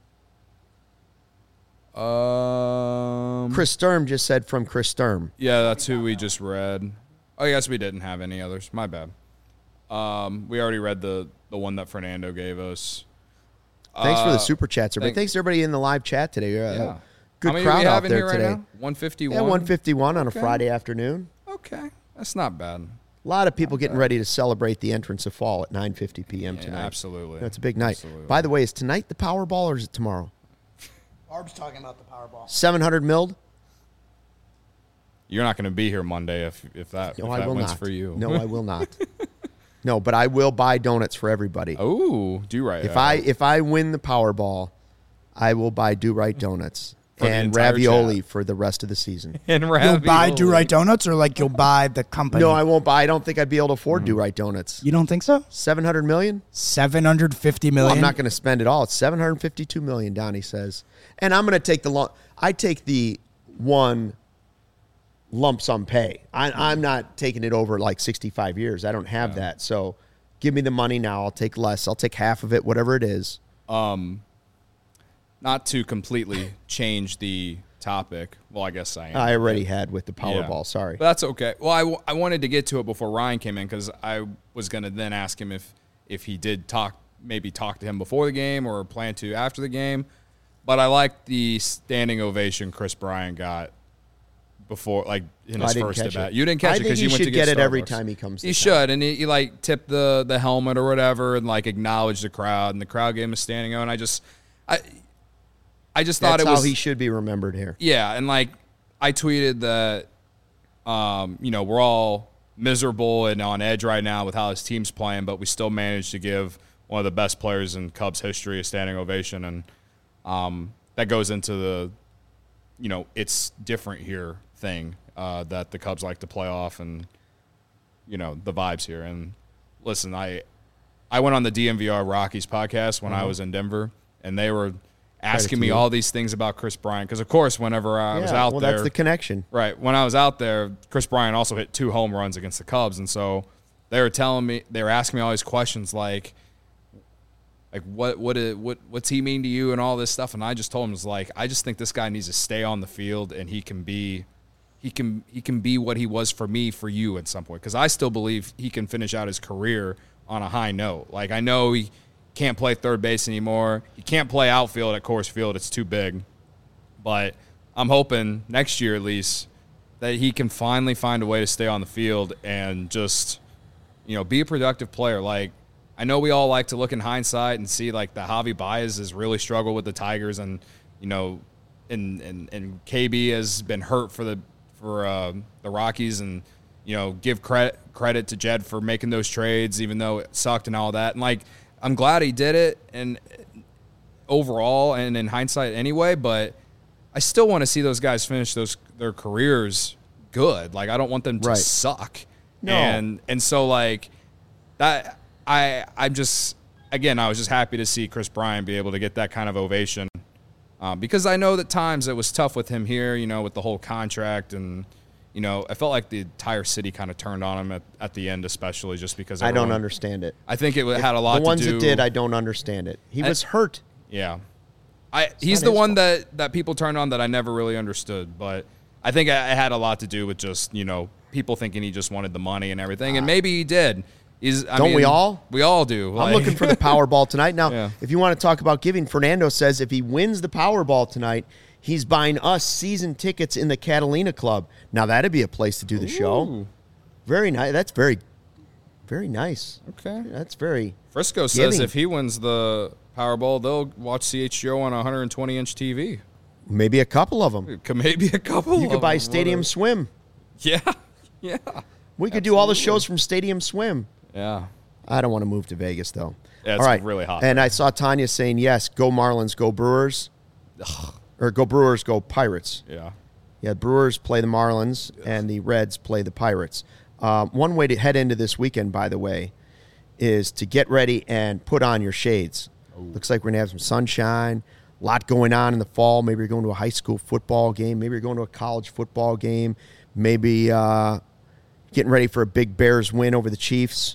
Chris Sturm just said from Chris Sturm. Yeah, that's who we just read. Oh, yes, we didn't have any others. My bad. We already read the one that Fernando gave us. Thanks for the super chats, everybody. Thanks to everybody in the live chat today. Yeah. Good How many crowd do we have out in there here right today. now? 151? Yeah, 151 on a Okay. Friday afternoon. Okay. That's not bad. A lot of people getting ready to celebrate the entrance of fall at 9:50 p.m. Yeah, tonight. absolutely. That's a big night. Absolutely. By the way, is tonight the Powerball or is it tomorrow? Barb's talking about the Powerball. 700 milled? You're not going to be here Monday if that, No, if I that will wins not. for you. No, I will not. No, but I will buy donuts for everybody. Oh, do right. If I win the Powerball, I will buy Do Right donuts For the and entire ravioli chat. for the rest of the season. And You'll buy Do Right Donuts, or like you'll buy the company? No, I won't buy. I don't think I'd be able to afford Do Right donuts. You don't think so? 700 million? 750 million. Well, I'm not going to spend it all. It's 752 million, Donnie says. And I'm going to take I take the one lump sum pay. I'm not taking it over like 65 years. I don't have that. So give me the money now. I'll take less. I'll take half of it, whatever it is. Not to completely change the topic. Well, I guess I am. I already had with the Powerball. Yeah. Sorry. But that's okay. Well, I wanted to get to it before Ryan came in because I was going to then ask him if he did talk to him before the game or plan to after the game. But I liked the standing ovation Chris Bryant got before, like in his first at bat. You didn't catch it because you went to get he should get it every Starbucks. time he comes. He should, and he like tipped the helmet or whatever, and like acknowledged the crowd, and the crowd gave him a standing O. And I just thought That's it was how he should be remembered here. Yeah, and like I tweeted that, we're all miserable and on edge right now with how his team's playing, but we still managed to give one of the best players in Cubs history a standing ovation, and that goes into the, it's different here thing that the Cubs like to play off, and the vibes here. And listen, I went on the DMVR Rockies podcast when I was in Denver, and they were asking me all these things about Chris Bryant because, of course, whenever I was out there, that's the connection, right? When I was out there, Chris Bryant also hit 2 home runs against the Cubs, and so they were asking me all these questions like what's he mean to you and all this stuff, and I just told him, I just think this guy needs to stay on the field and he can be what he was for me, for you at some point, because I still believe he can finish out his career on a high note. Like, I know he can't play third base anymore. He can't play outfield at Coors Field. It's too big. But I'm hoping next year at least that he can finally find a way to stay on the field and just, be a productive player. Like, I know we all like to look in hindsight and see like the Javi Baez has really struggled with the Tigers, and and KB has been hurt for the Rockies, and give credit to Jed for making those trades even though it sucked and all that. And like, I'm glad he did it, and overall and in hindsight anyway, but I still want to see those guys finish their careers good. Like, I don't want them to suck. No. And so like that, I'm just, again, I was just happy to see Chris Bryant be able to get that kind of ovation, because I know that times it was tough with him here, with the whole contract, and I felt like the entire city kind of turned on him at the end, especially just because I don't understand it. I think it had a lot to do. The ones that did, I don't understand it. He was hurt. Yeah. He's the one that people turned on that I never really understood, but I think it had a lot to do with just, people thinking he just wanted the money and everything, and maybe he did. We all? We all do. I'm looking for the Powerball tonight. Now, If you want to talk about giving, Fernando says if he wins the Powerball tonight, he's buying us season tickets in the Catalina Club. Now, that'd be a place to do the show. Very nice. That's very, very nice. Okay. That's very Frisco says if he wins the Powerball, they'll watch CHGO on a 120-inch TV. Maybe a couple of them. Maybe a couple. You could buy Stadium Swim. Yeah. Yeah. We could do all the shows from Stadium Swim. Yeah. I don't want to move to Vegas, though. Yeah, it's all right. really hot. And I saw Tanya saying, yes, go Marlins, go Brewers. Or go Brewers, go Pirates. Yeah. Yeah, Brewers play the Marlins, and the Reds play the Pirates. One way to head into this weekend, by the way, is to get ready and put on your shades. Looks like we're going to have some sunshine, A lot going on in the fall. Maybe you're going to a high school football game. Maybe you're going to a college football game. Maybe getting ready for a big Bears win over the Chiefs.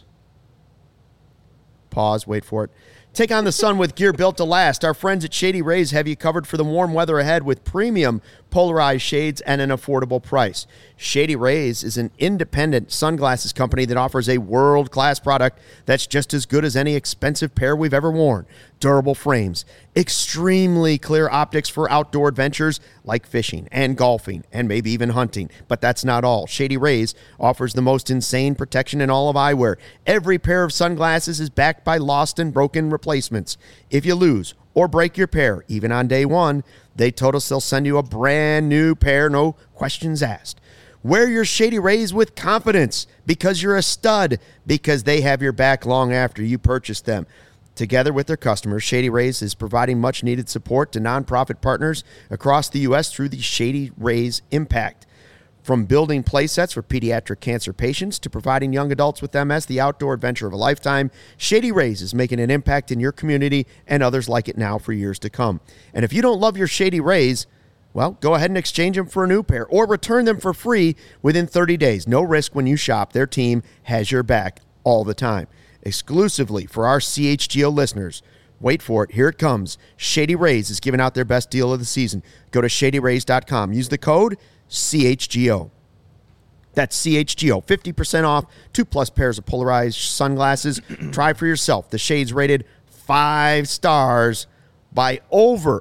Pause. Wait for it. Take on the sun with gear built to last. Our friends at Shady Rays have you covered for the warm weather ahead with premium polarized shades and an affordable price. Shady Rays is an independent sunglasses company that offers a world-class product that's just as good as any expensive pair we've ever worn. Durable frames, extremely clear optics for outdoor adventures like fishing and golfing and maybe even hunting. But that's not all. Shady Rays offers the most insane protection in all of eyewear. Every pair of sunglasses is backed by lost and broken replacements. If you lose or break your pair, even on day one, they told us they'll send you a brand new pair, no questions asked. Wear your Shady Rays with confidence because you're a stud, because they have your back long after you purchase them. Together with their customers, Shady Rays is providing much-needed support to nonprofit partners across the U.S. through the Shady Rays Impact. From building play sets for pediatric cancer patients to providing young adults with MS the outdoor adventure of a lifetime, Shady Rays is making an impact in your community and others like it now for years to come. And if you don't love your Shady Rays, well, go ahead and exchange them for a new pair or return them for free within 30 days. No risk when you shop. Their team has your back all the time. Exclusively for our CHGO listeners. Wait for it. Here it comes. Shady Rays is giving out their best deal of the season. Go to shadyrays.com. Use the code CHGO. That's CHGO. 50% off. 2+ pairs of polarized sunglasses. Try for yourself. The shades rated 5 stars by over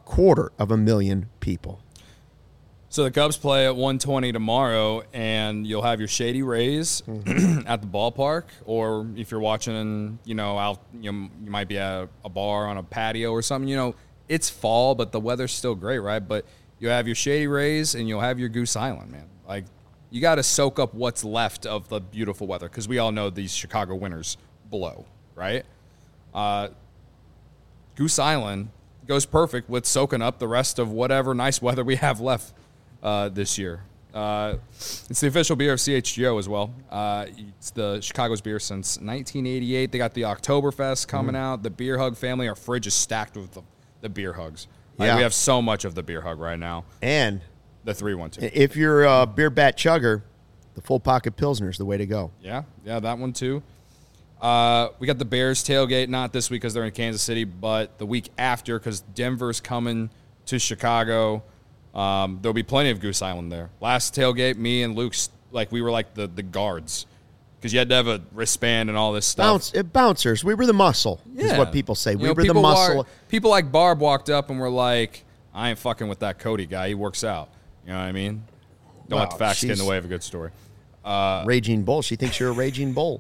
250,000 people. So the Cubs play at 1:20 tomorrow, and you'll have your Shady Rays at the ballpark, or if you're watching, out, you might be at a bar on a patio or something. It's fall, but the weather's still great, right? But you'll have your Shady Rays, and you'll have your Goose Island, man. Like, you got to soak up what's left of the beautiful weather, because we all know these Chicago winters blow, right? Goose Island goes perfect with soaking up the rest of whatever nice weather we have left this year. It's the official beer of CHGO as well. It's the Chicago's beer since 1988. They got the Oktoberfest coming out. The Beer Hug family, our fridge is stacked with the Beer Hugs. We have so much of the Beer Hug right now. And the 312. If you're a beer bat chugger, the full pocket Pilsner is the way to go. Yeah, that one too. We got the Bears tailgate, not this week because they're in Kansas City, but the week after because Denver's coming to Chicago. There'll be plenty of Goose Island there. Last tailgate, me and Luke, we were like the guards because you had to have a wristband and all this stuff. Bouncers. We were the muscle, is what people say. We were the muscle. People like Barb walked up and were like, I ain't fucking with that Cody guy. He works out. You know what I mean? Don't let the facts get in the way of a good story. Raging bull. She thinks you're a raging bull.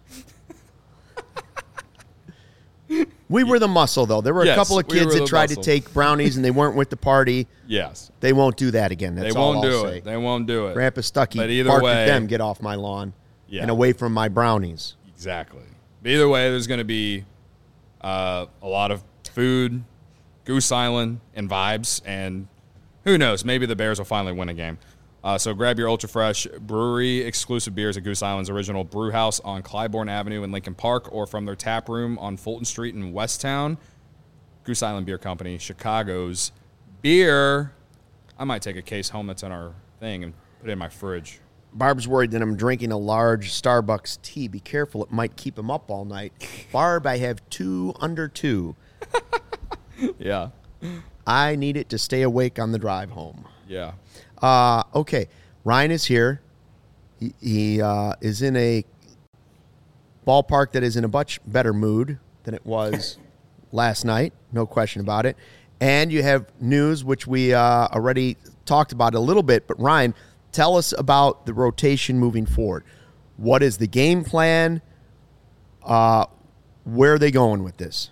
We were the muscle, though. There were a couple of kids that tried to take brownies, and they weren't with the party. Yes. They won't do that again. That's all I'll say. They won't do it. Grandpa Stuckey barked at them, get off my lawn and away from my brownies. Exactly. But either way, there's going to be a lot of food, Goose Island, and vibes, and who knows, maybe the Bears will finally win a game. So grab your Ultra Fresh brewery exclusive beers at Goose Island's original brew house on Clybourne Avenue in Lincoln Park, or from their tap room on Fulton Street in Westtown. Goose Island Beer Company, Chicago's beer. I might take a case home that's in our thing and put it in my fridge. Barb's worried that I'm drinking a large Starbucks tea. Be careful, it might keep him up all night. Barb, I have 2 under 2. Yeah. I need it to stay awake on the drive home. Yeah. Okay, Ryan is here. He is in a ballpark that is in a much better mood than it was last night. No question about it. And you have news, which we already talked about a little bit. But, Ryan, tell us about the rotation moving forward. What is the game plan? Where are they going with this?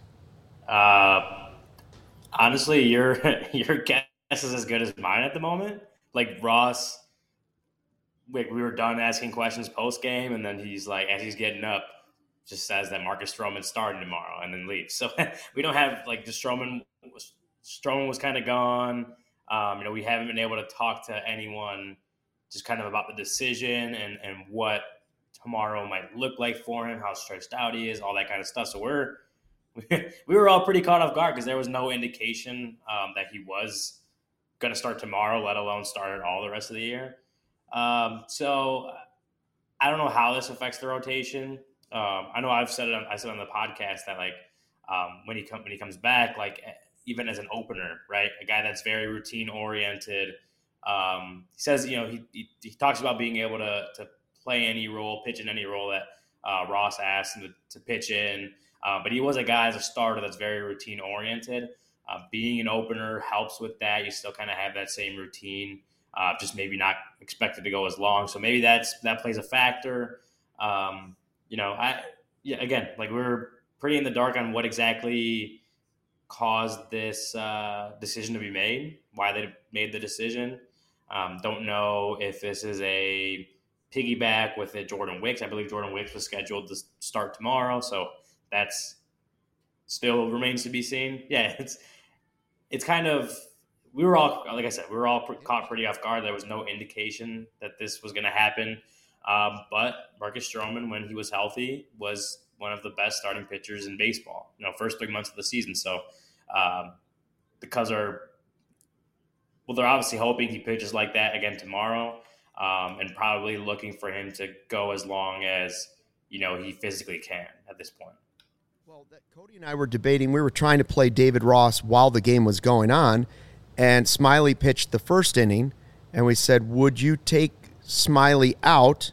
Honestly, your guess is as good as mine at the moment. Like Ross, we were done asking questions post game, and then he's like, as he's getting up, just says that Marcus Stroman's starting tomorrow, and then leaves. So we don't have the Stroman was kind of gone. We haven't been able to talk to anyone just kind of about the decision and what tomorrow might look like for him, how stretched out he is, all that kind of stuff. So we're we were all pretty caught off guard because there was no indication that he was going to start tomorrow, let alone start all the rest of the year. So I don't know how this affects the rotation. I know I said on the podcast that like when he comes back, like even as an opener, right, a guy that's very routine oriented. He says, he talks about being able to play any role, pitch in any role that Ross asked him to pitch in. But he was a guy as a starter that's very routine oriented. Being an opener helps with that. You still kind of have that same routine, just maybe not expected to go as long. So maybe that plays a factor. Again, like we're pretty in the dark on what exactly caused this decision to be made, why they made the decision. Don't know if this is a piggyback with Jordan Wicks. I believe Jordan Wicks was scheduled to start tomorrow, so that's still remains to be seen. Yeah, it's kind of, we were all, like I said, caught pretty off guard. There was no indication that this was going to happen. But Marcus Stroman, when he was healthy, was one of the best starting pitchers in baseball, first 3 months of the season. So the Cubs they're obviously hoping he pitches like that again tomorrow, and probably looking for him to go as long as, he physically can at this point. Well, Cody and I were debating. We were trying to play David Ross while the game was going on, and Smiley pitched the first inning, and we said, would you take Smiley out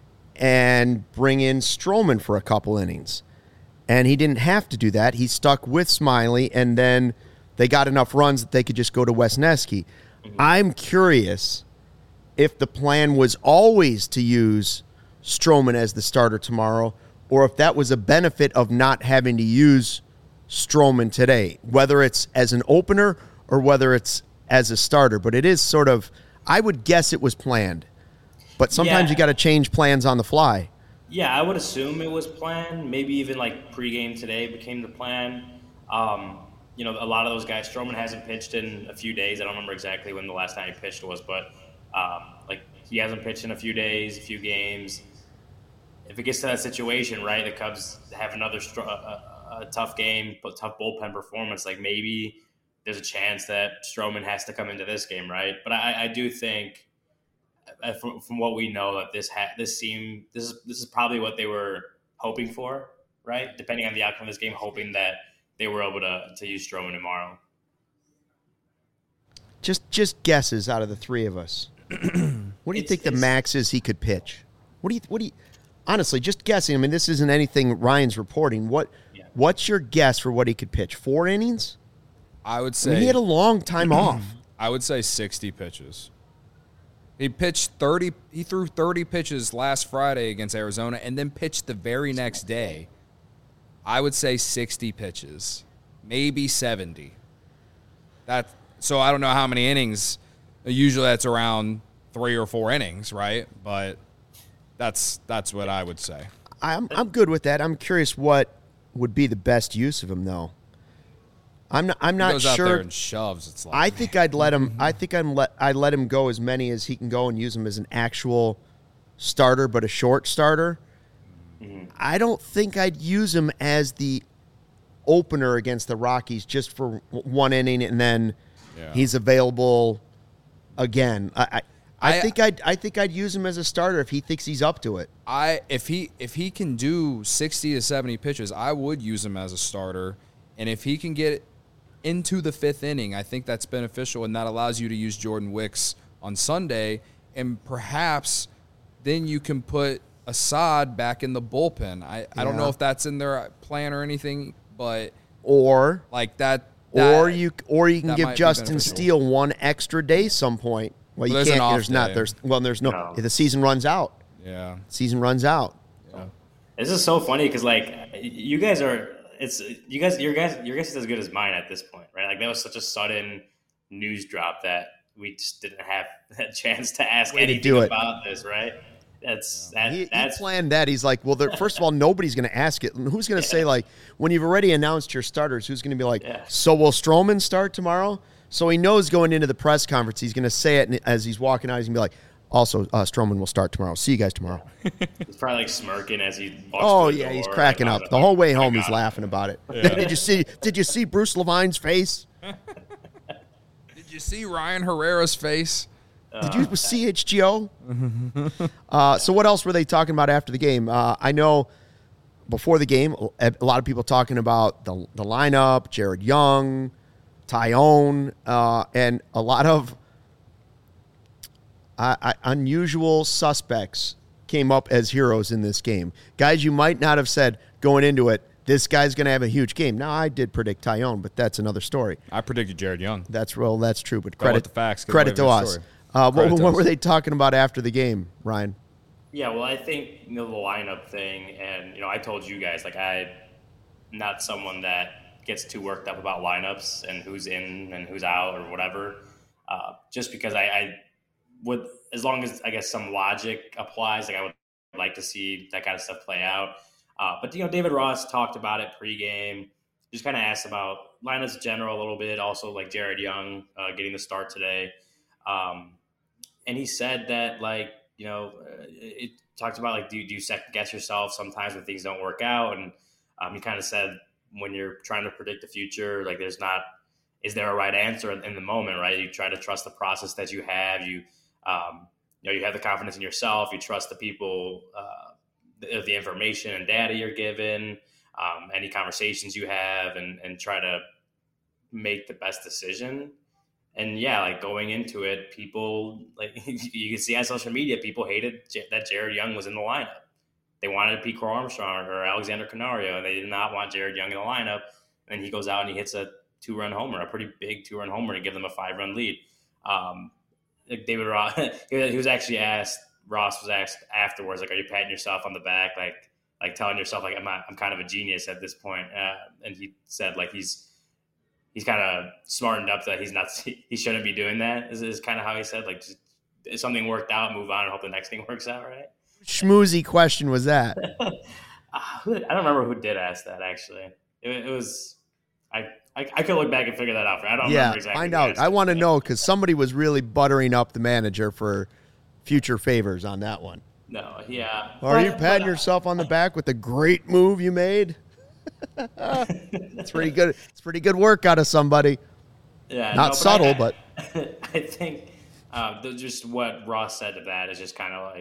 and bring in Stroman for a couple innings? And he didn't have to do that. He stuck with Smiley, and then they got enough runs that they could just go to Wesneski. Mm-hmm. I'm curious if the plan was always to use Stroman as the starter tomorrow, or if that was a benefit of not having to use Stroman today, whether it's as an opener or whether it's as a starter. But it is sort of, I would guess it was planned. But sometimes you got to change plans on the fly. Yeah, I would assume it was planned. Maybe even like pregame today became the plan. A lot of those guys, Stroman hasn't pitched in a few days. I don't remember exactly when the last time he pitched was, but he hasn't pitched in a few days, a few games. If it gets to that situation, right, the Cubs have another a tough game, but tough bullpen performance, like maybe there's a chance that Stroman has to come into this game, right? But I do think, from what we know, that this is probably what they were hoping for, right? Depending on the outcome of this game, hoping that they were able to use Stroman tomorrow. Just guesses out of the three of us. What do you think the max is he could pitch? What do you honestly, just guessing? I mean, this isn't anything Ryan's reporting. What's your guess for what he could pitch? 4 innings? I would say he had a long time off. I would say 60 pitches. He pitched 30. He threw 30 pitches last Friday against Arizona, and then pitched the very next day. I would say 60 pitches, maybe 70. So I don't know how many innings. Usually that's around 3 or 4 innings, right? But that's what I would say. I'm good with that. I'm curious what would be the best use of him, though. I'm not he goes sure. Out there and shoves. It's like, I think I'd let him. I think I'd let him go as many as he can go and use him as an actual starter, but a short starter. Mm-hmm. I don't think I'd use him as the opener against the Rockies just for 1 inning and then he's available again. I think I'd use him as a starter if he thinks he's up to it. If he can do 60 to 70 pitches, I would use him as a starter, and if he can get into the 5th inning, I think that's beneficial, and that allows you to use Jordan Wicks on Sunday, and perhaps then you can put Assad back in the bullpen. I don't know if that's in their plan or anything, but or like that or you can give Justin Steele 1 extra day some point. Well, you can't. There's no. The season runs out. Yeah, season runs out. Yeah. This is so funny because you guys are. Your guess is as good as mine at this point, right? Like that was such a sudden news drop that we just didn't have a chance to ask anything about this, right? He planned that. He's like, well, first of all, nobody's going to ask it. And who's going to say, like, when you've already announced your starters, who's going to be like, so will Stroman start tomorrow? So he knows going into the press conference, he's going to say it as he's walking out. He's going to be like, Also, Stroman will start tomorrow. See you guys tomorrow. He's probably like smirking as he walks Oh, through the yeah, he's door, cracking like, up. The whole way "Oh my home, he's God." laughing about it. Did you see Bruce Levine's face? Did you see Ryan Herrera's face? Did you see CHGO? So what else were they talking about after the game? I know before the game, a lot of people talking about the lineup, Jared Young, Tyone, and a lot of unusual suspects came up as heroes in this game. Guys you might not have said going into it, this guy's going to have a huge game. Now, I did predict Tyone, but that's another story. I predicted Jared Young. That's true, but Go with the facts, credit to us. What were they talking about after the game, Ryan? Yeah, well, I think the lineup thing, and I told you guys like I'm not someone that gets too worked up about lineups and who's in and who's out or whatever. Just because I would, as long as I guess some logic applies, like I would like to see that kind of stuff play out. But David Ross talked about it pregame. Just kind of asked about lineups in general a little bit. Also, like Jared Young getting the start today, and he said that it talked about do you second guess yourself sometimes when things don't work out, and he kind of said when you're trying to predict the future, is there a right answer in the moment, right? You try to trust the process that you have. You have the confidence in yourself. You trust the people. The information and data you're given, any conversations you have, and try to make the best decision. And going into it, people you can see on social media, people hated that Jared Young was in the lineup. They wanted Pete Crow-Armstrong or Alexander Canario, and they did not want Jared Young in the lineup. And he goes out and he hits a 2-run homer, a pretty big 2-run homer to give them a 5-run lead. David Ross, he was actually asked. Ross was asked afterwards, are you patting yourself on the back, like telling yourself, I'm kind of a genius at this point? And he said, he's kind of smartened up that he shouldn't be doing that. Is kind of how he said, just, if something worked out, move on and hope the next thing works out, right? Schmoozy question was that? I don't remember who did ask that, actually. It was I could look back and figure that out. I don't remember exactly. Find out. I want to know because somebody was really buttering up the manager for future favors on that one. No, yeah. Are you patting yourself on the back with the great move you made? It's pretty good. It's pretty good work out of somebody. Yeah, not subtle, but I think just what Ross said to that is just kind of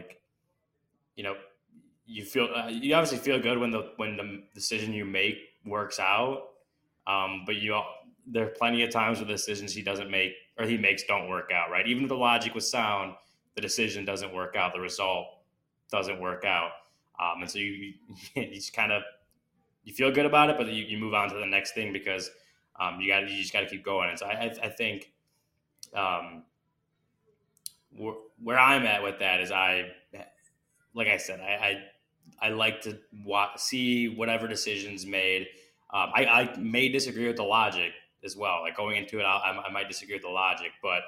you feel you obviously feel good when the decision you make works out, but there are plenty of times where the decisions he doesn't make or he makes don't work out, right? Even if the logic was sound, the decision doesn't work out, the result doesn't work out, and so you just kind of you feel good about it, but you move on to the next thing because you just got to keep going. And so I think where I'm at with that is like I said, I like to see whatever decisions made. I may disagree with the logic as well. Going into it, I might disagree with the logic, but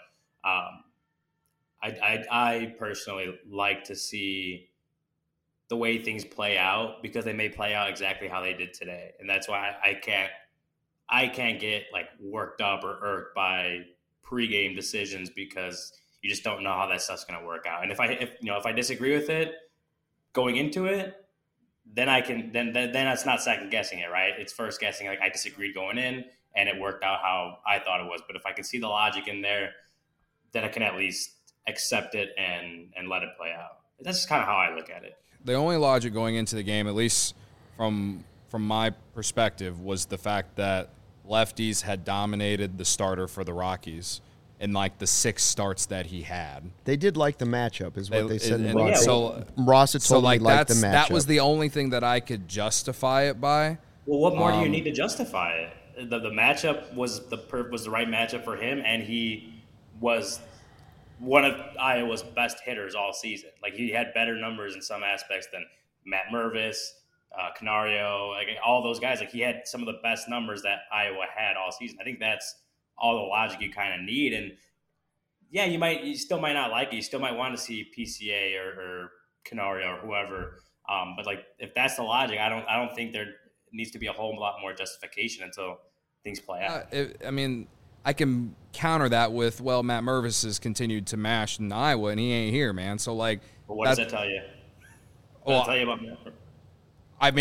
I personally like to see the way things play out because they may play out exactly how they did today, and that's why I can't get worked up or irked by pregame decisions because you just don't know how that stuff's going to work out. And if I disagree with it going into it, then that's not second guessing it, right? It's first guessing. I disagreed going in, and it worked out how I thought it was. But if I can see the logic in there, then I can at least accept it and let it play out. That's just kind of how I look at it. The only logic going into the game, at least from my perspective, was the fact that lefties had dominated the starter for the Rockies in the 6 starts that he had. They did like the matchup, is what they said. Ross had totally liked the matchup. That was the only thing that I could justify it by. Well, what more do you need to justify it? The matchup was the right matchup for him, and he was one of Iowa's best hitters all season. He had better numbers in some aspects than Matt Mervis, Canario, all those guys. He had some of the best numbers that Iowa had all season. I think that's all the logic you kind of need. And yeah, you still might not like it. You still might want to see PCA or Canario or whoever. But if that's the logic, I don't think there needs to be a whole lot more justification until things play out. I can counter that with, well, Matt Mervis has continued to mash in Iowa, and he ain't here, man. So, like, But what does that tell you? What does that tell you about Matt? I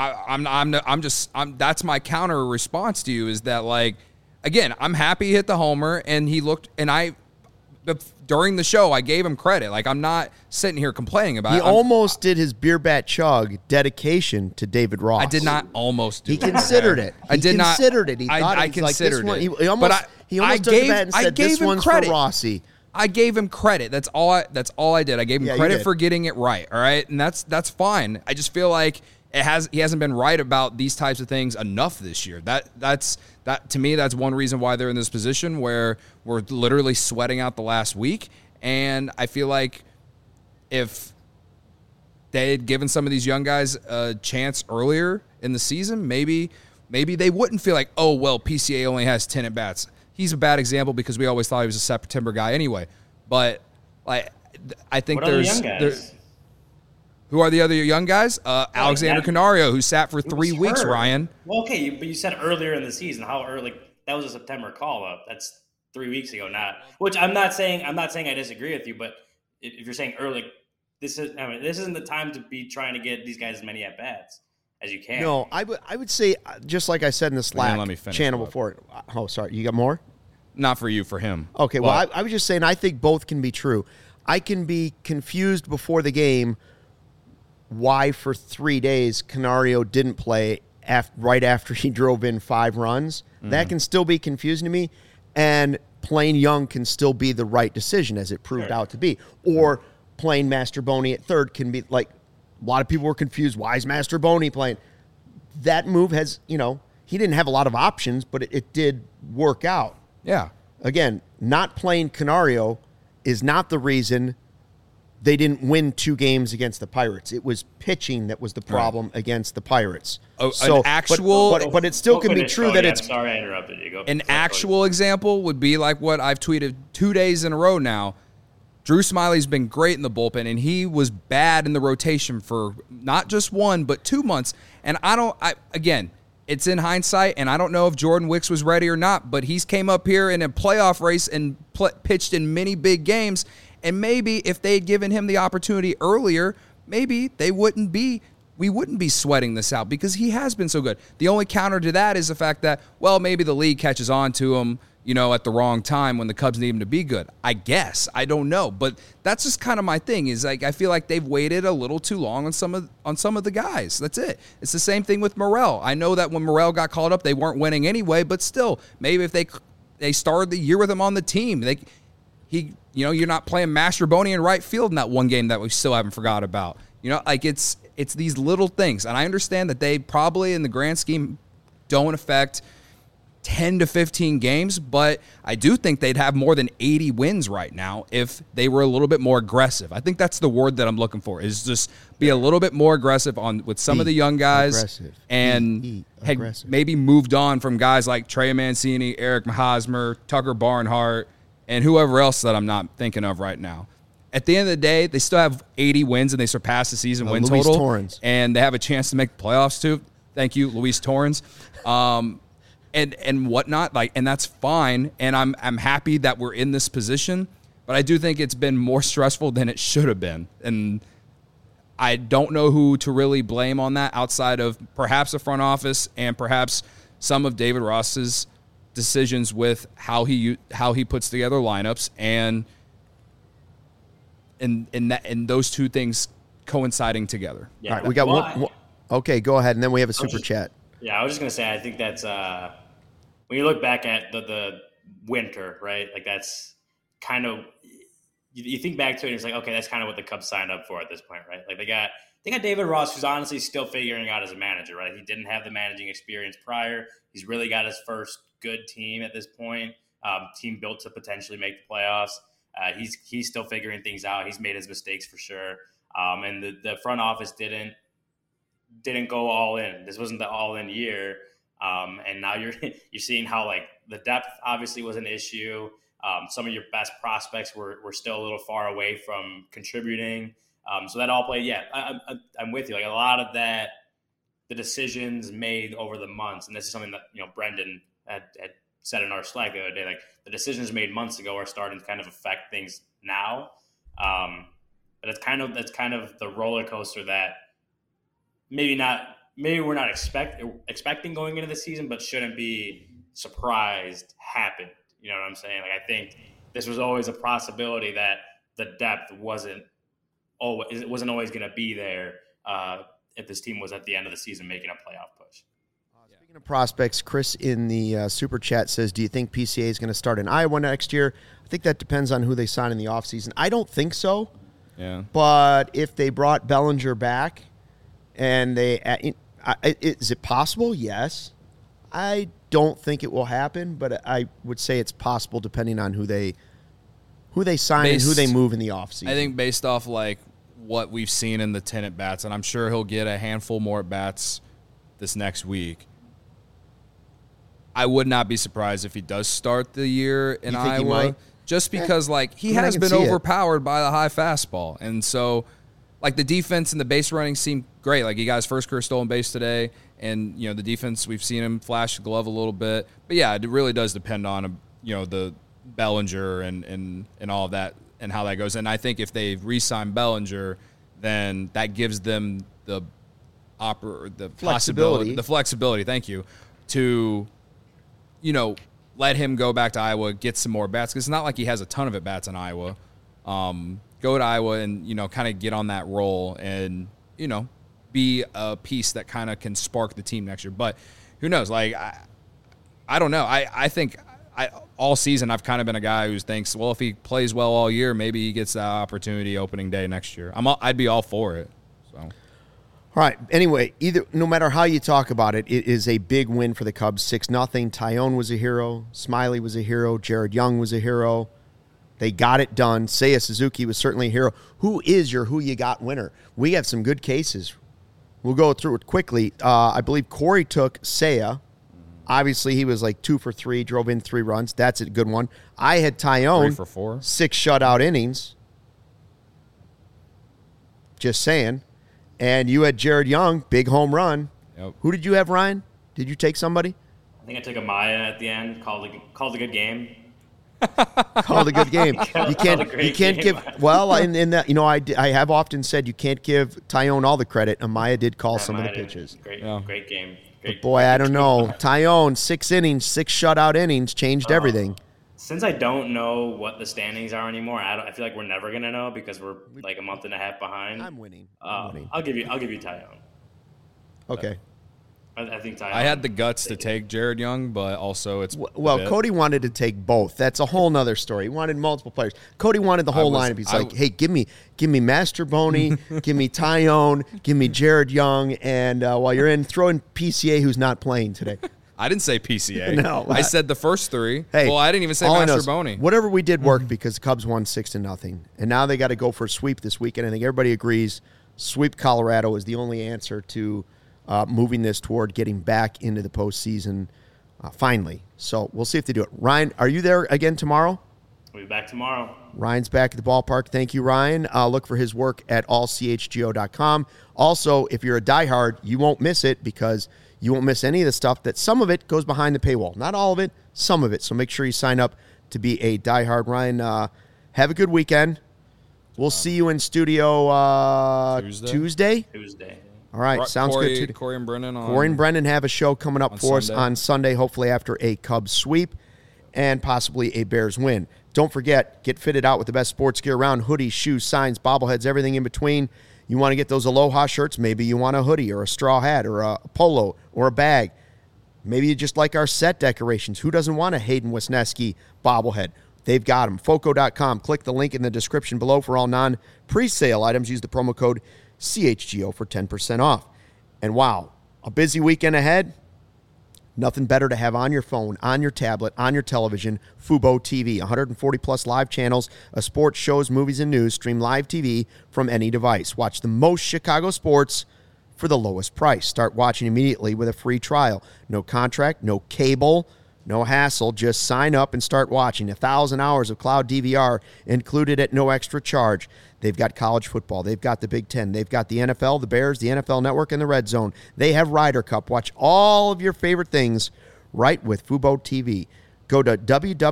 mean, that's my counter response to you is that, like, again, I'm happy he hit the homer, and he looked, and during the show, I gave him credit. Like, I'm not sitting here complaining about it. He almost did his beer bat chug dedication to David Ross. I did not almost do He it. considered it. I did not. Considered it. He thought I it was considered like, this it. one, he almost took the bat and said, this one's for Rossi. I gave him credit. That's all I did. I gave him credit for getting it right. All right, and that's fine. I just feel like he hasn't been right about these types of things enough this year. That to me, that's one reason why they're in this position where we're literally sweating out the last week. And I feel like if they had given some of these young guys a chance earlier in the season, maybe they wouldn't feel like, oh, well, PCA only has 10 at bats. He's a bad example because we always thought he was a September guy anyway. But like, I think who are the other young guys? Alexander Canario, who sat for 3 weeks, Ryan. Well, okay, but you said earlier in the season. How early? That was a September call-up. That's 3 weeks ago, which I'm not saying I disagree with you, but if you're saying early, this isn't the time to be trying to get these guys as many at bats as you can. No, I would say, just like I said in the Slack channel before. Oh, sorry, you got more? Not for you, for him. Okay, well, I was just saying I think both can be true. I can be confused before the game why for 3 days Canario didn't play right after he drove in 5 runs. Mm-hmm. That can still be confusing to me. And playing Young can still be the right decision, as it proved out to be. Or playing Masterboni at third can be, like, a lot of people were confused. Why is Masterboni playing? That move has, he didn't have a lot of options, but it did work out. Yeah. Again, not playing Canario is not the reason they didn't win 2 games against the Pirates. It was pitching that was the problem against the Pirates. But it still can be true that it's. I'm sorry I interrupted you. Go. An actual example would be like what I've tweeted 2 days in a row now. Drew Smiley's been great in the bullpen, and he was bad in the rotation for not just 1 but 2 months. And again, it's in hindsight, and I don't know if Jordan Wicks was ready or not, but he's came up here in a playoff race and pitched in many big games. And maybe if they had given him the opportunity earlier, maybe we wouldn't be sweating this out because he has been so good. The only counter to that is the fact that, well, maybe the league catches on to him, at the wrong time when the Cubs need him to be good. I guess. I don't know. But that's just kind of my thing is, like, I feel like they've waited a little too long on some of the guys. That's it. It's the same thing with Morel. I know that when Morel got called up, they weren't winning anyway, but still, maybe if they started the year with him on the team, you're not playing Masterboni in right field in that one game that we still haven't forgot about. It's these little things. And I understand that they probably, in the grand scheme, don't affect 10 to 15 games, but I do think they'd have more than 80 wins right now if they were a little bit more aggressive. I think that's the word that I'm looking for, is just be a little bit more aggressive with some of the young guys and had maybe moved on from guys like Trey Mancini, Eric Hosmer, Tucker Barnhart, and whoever else that I'm not thinking of right now. At the end of the day, they still have 80 wins, and they surpass the season win Luis total. Torrens. And they have a chance to make the playoffs, too. Thank you, Luis Torrens. And whatnot, and that's fine. And I'm happy that we're in this position. But I do think it's been more stressful than it should have been. And I don't know who to really blame on that outside of perhaps the front office and perhaps some of David Ross's decisions with how he puts together lineups and those two things coinciding together. Yeah, all right, we got one. Okay, go ahead, and then we have a super chat. Yeah, I was just gonna say I think that's when you look back at the winter, right? Like that's kind of you think back to it and it's like, okay, that's kind of what the Cubs signed up for at this point, right? Like they got David Ross, who's honestly still figuring out as a manager, right? He didn't have the managing experience prior. He's really got his first good team at this point. Team built to potentially make the playoffs. He's still figuring things out. He's made his mistakes for sure. And the front office didn't go all in. This wasn't the all in year. And now you're seeing how like the depth obviously was an issue. Some of your best prospects were still a little far away from contributing. So that all played. Yeah, I'm with you. Like a lot of that, the decisions made over the months, and this is something that Brendan had said in our Slack the other day, like the decisions made months ago are starting to kind of affect things now. But that's kind of the roller coaster that maybe we're not expecting going into the season, but shouldn't be surprised happened. You know what I'm saying? Like I think this was always a possibility that the depth wasn't always going to be there if this team was at the end of the season making a playoff push. Speaking of prospects, Chris in the Super Chat says, do you think PCA is going to start in Iowa next year? I think that depends on who they sign in the offseason. I don't think so. Yeah. But if they brought Bellinger back and is it possible? Yes. I don't think it will happen, but I would say it's possible depending on who they sign and who they move in the offseason. I think based off like what we've seen in the 10 at-bats, and I'm sure he'll get a handful more at-bats this next week. I would not be surprised if he does start the year in Iowa, just because he has been overpowered by the high fastball. And so like the defense and the base running seem great. Like he got his first career stolen base today, and the defense, we've seen him flash the glove a little bit. But yeah, it really does depend on the Bellinger and all of that and how that goes. And I think if they re-sign Bellinger, then that gives them the flexibility. Thank you, to let him go back to Iowa, get some more bats, because it's not like he has a ton of at bats in Iowa. Go to Iowa and kind of get on that roll and be a piece that kind of can spark the team next year. But who knows? Like I don't know. I think all season I've kind of been a guy who thinks, well, if he plays well all year, maybe he gets that opportunity opening day next year. I'd be all for it. So. All right. Anyway, no matter how you talk about it, it is a big win for the Cubs. 6-0. Tyone was a hero. Smiley was a hero. Jared Young was a hero. They got it done. Seiya Suzuki was certainly a hero. Who is your who you got winner? We have some good cases. We'll go through it quickly. I believe Corey took Seiya. Obviously, he was like 2 for 3, drove in 3 runs. That's a good one. I had Tyone. 3 for 4. 6 shutout innings. Just saying. And you had Jared Young, big home run. Yep. Who did you have, Ryan? Did you take somebody? I think I took Amaya at the end. Called a good game. Called a good game. You can't give. Well, in that, I have often said you can't give Tyone all the credit. Amaya did call some of the pitches. Great game. But boy, I don't know. Tyone, 6 innings, 6 shutout innings, changed everything. Since I don't know what the standings are anymore, I feel like we're never gonna know because we're like a month and a half behind. I'm winning. I'll give you Tyone. Okay. I think Tyone. I had the guts to take Jared Young, but also it's Cody wanted to take both. That's a whole nother story. He wanted multiple players. Cody wanted the whole lineup. He's like, hey, give me Mastrobuoni, give me Tyone, give me Jared Young, and while you're in, throw in PCA, who's not playing today. I didn't say PCA. No, I said the first 3. Hey, well, I didn't even say Mastrobuoni. Whatever we did worked because the Cubs won 6-0, and now they got to go for a sweep this weekend. I think everybody agrees sweep Colorado is the only answer to moving this toward getting back into the postseason finally. So we'll see if they do it. Ryan, are you there again tomorrow? We'll be back tomorrow. Ryan's back at the ballpark. Thank you, Ryan. Look for his work at allchgo.com. Also, if you're a diehard, you won't miss it because you won't miss any of the stuff that some of it goes behind the paywall. Not all of it, some of it. So make sure you sign up to be a diehard. Ryan, have a good weekend. We'll see you in studio Tuesday. All right, sounds good. Too. Corey and Brennan have a show coming up for us on Sunday, hopefully after a Cubs sweep and possibly a Bears win. Don't forget, get fitted out with the best sports gear around: hoodies, shoes, signs, bobbleheads, everything in between. You want to get those Aloha shirts? Maybe you want a hoodie or a straw hat or a polo or a bag. Maybe you just like our set decorations. Who doesn't want a Hayden Wisniewski bobblehead? They've got them. Foco.com. Click the link in the description below for all non-presale items. Use the promo code CHGO for 10% off. And wow, a busy weekend ahead. Nothing better to have on your phone, on your tablet, on your television. Fubo TV, 140-plus live channels of sports, shows, movies, and news. Stream live TV from any device. Watch the most Chicago sports for the lowest price. Start watching immediately with a free trial. No contract, no cable, no hassle. Just sign up and start watching. 1,000 hours of cloud DVR included at no extra charge. They've got college football. They've got the Big Ten. They've got the NFL, the Bears, the NFL Network, and the Red Zone. They have Ryder Cup. Watch all of your favorite things right with Fubo TV. Go to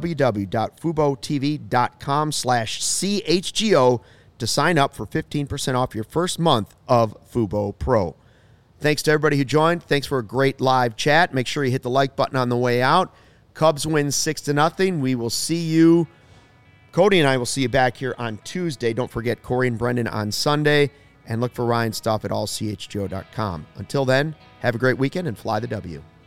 www.FuboTV.com/CHGO to sign up for 15% off your first month of Fubo Pro. Thanks to everybody who joined. Thanks for a great live chat. Make sure you hit the like button on the way out. Cubs win 6-0. We will see you. Cody and I will see you back here on Tuesday. Don't forget Corey and Brendan on Sunday. And look for Ryan's stuff at allchgo.com. Until then, have a great weekend and fly the W.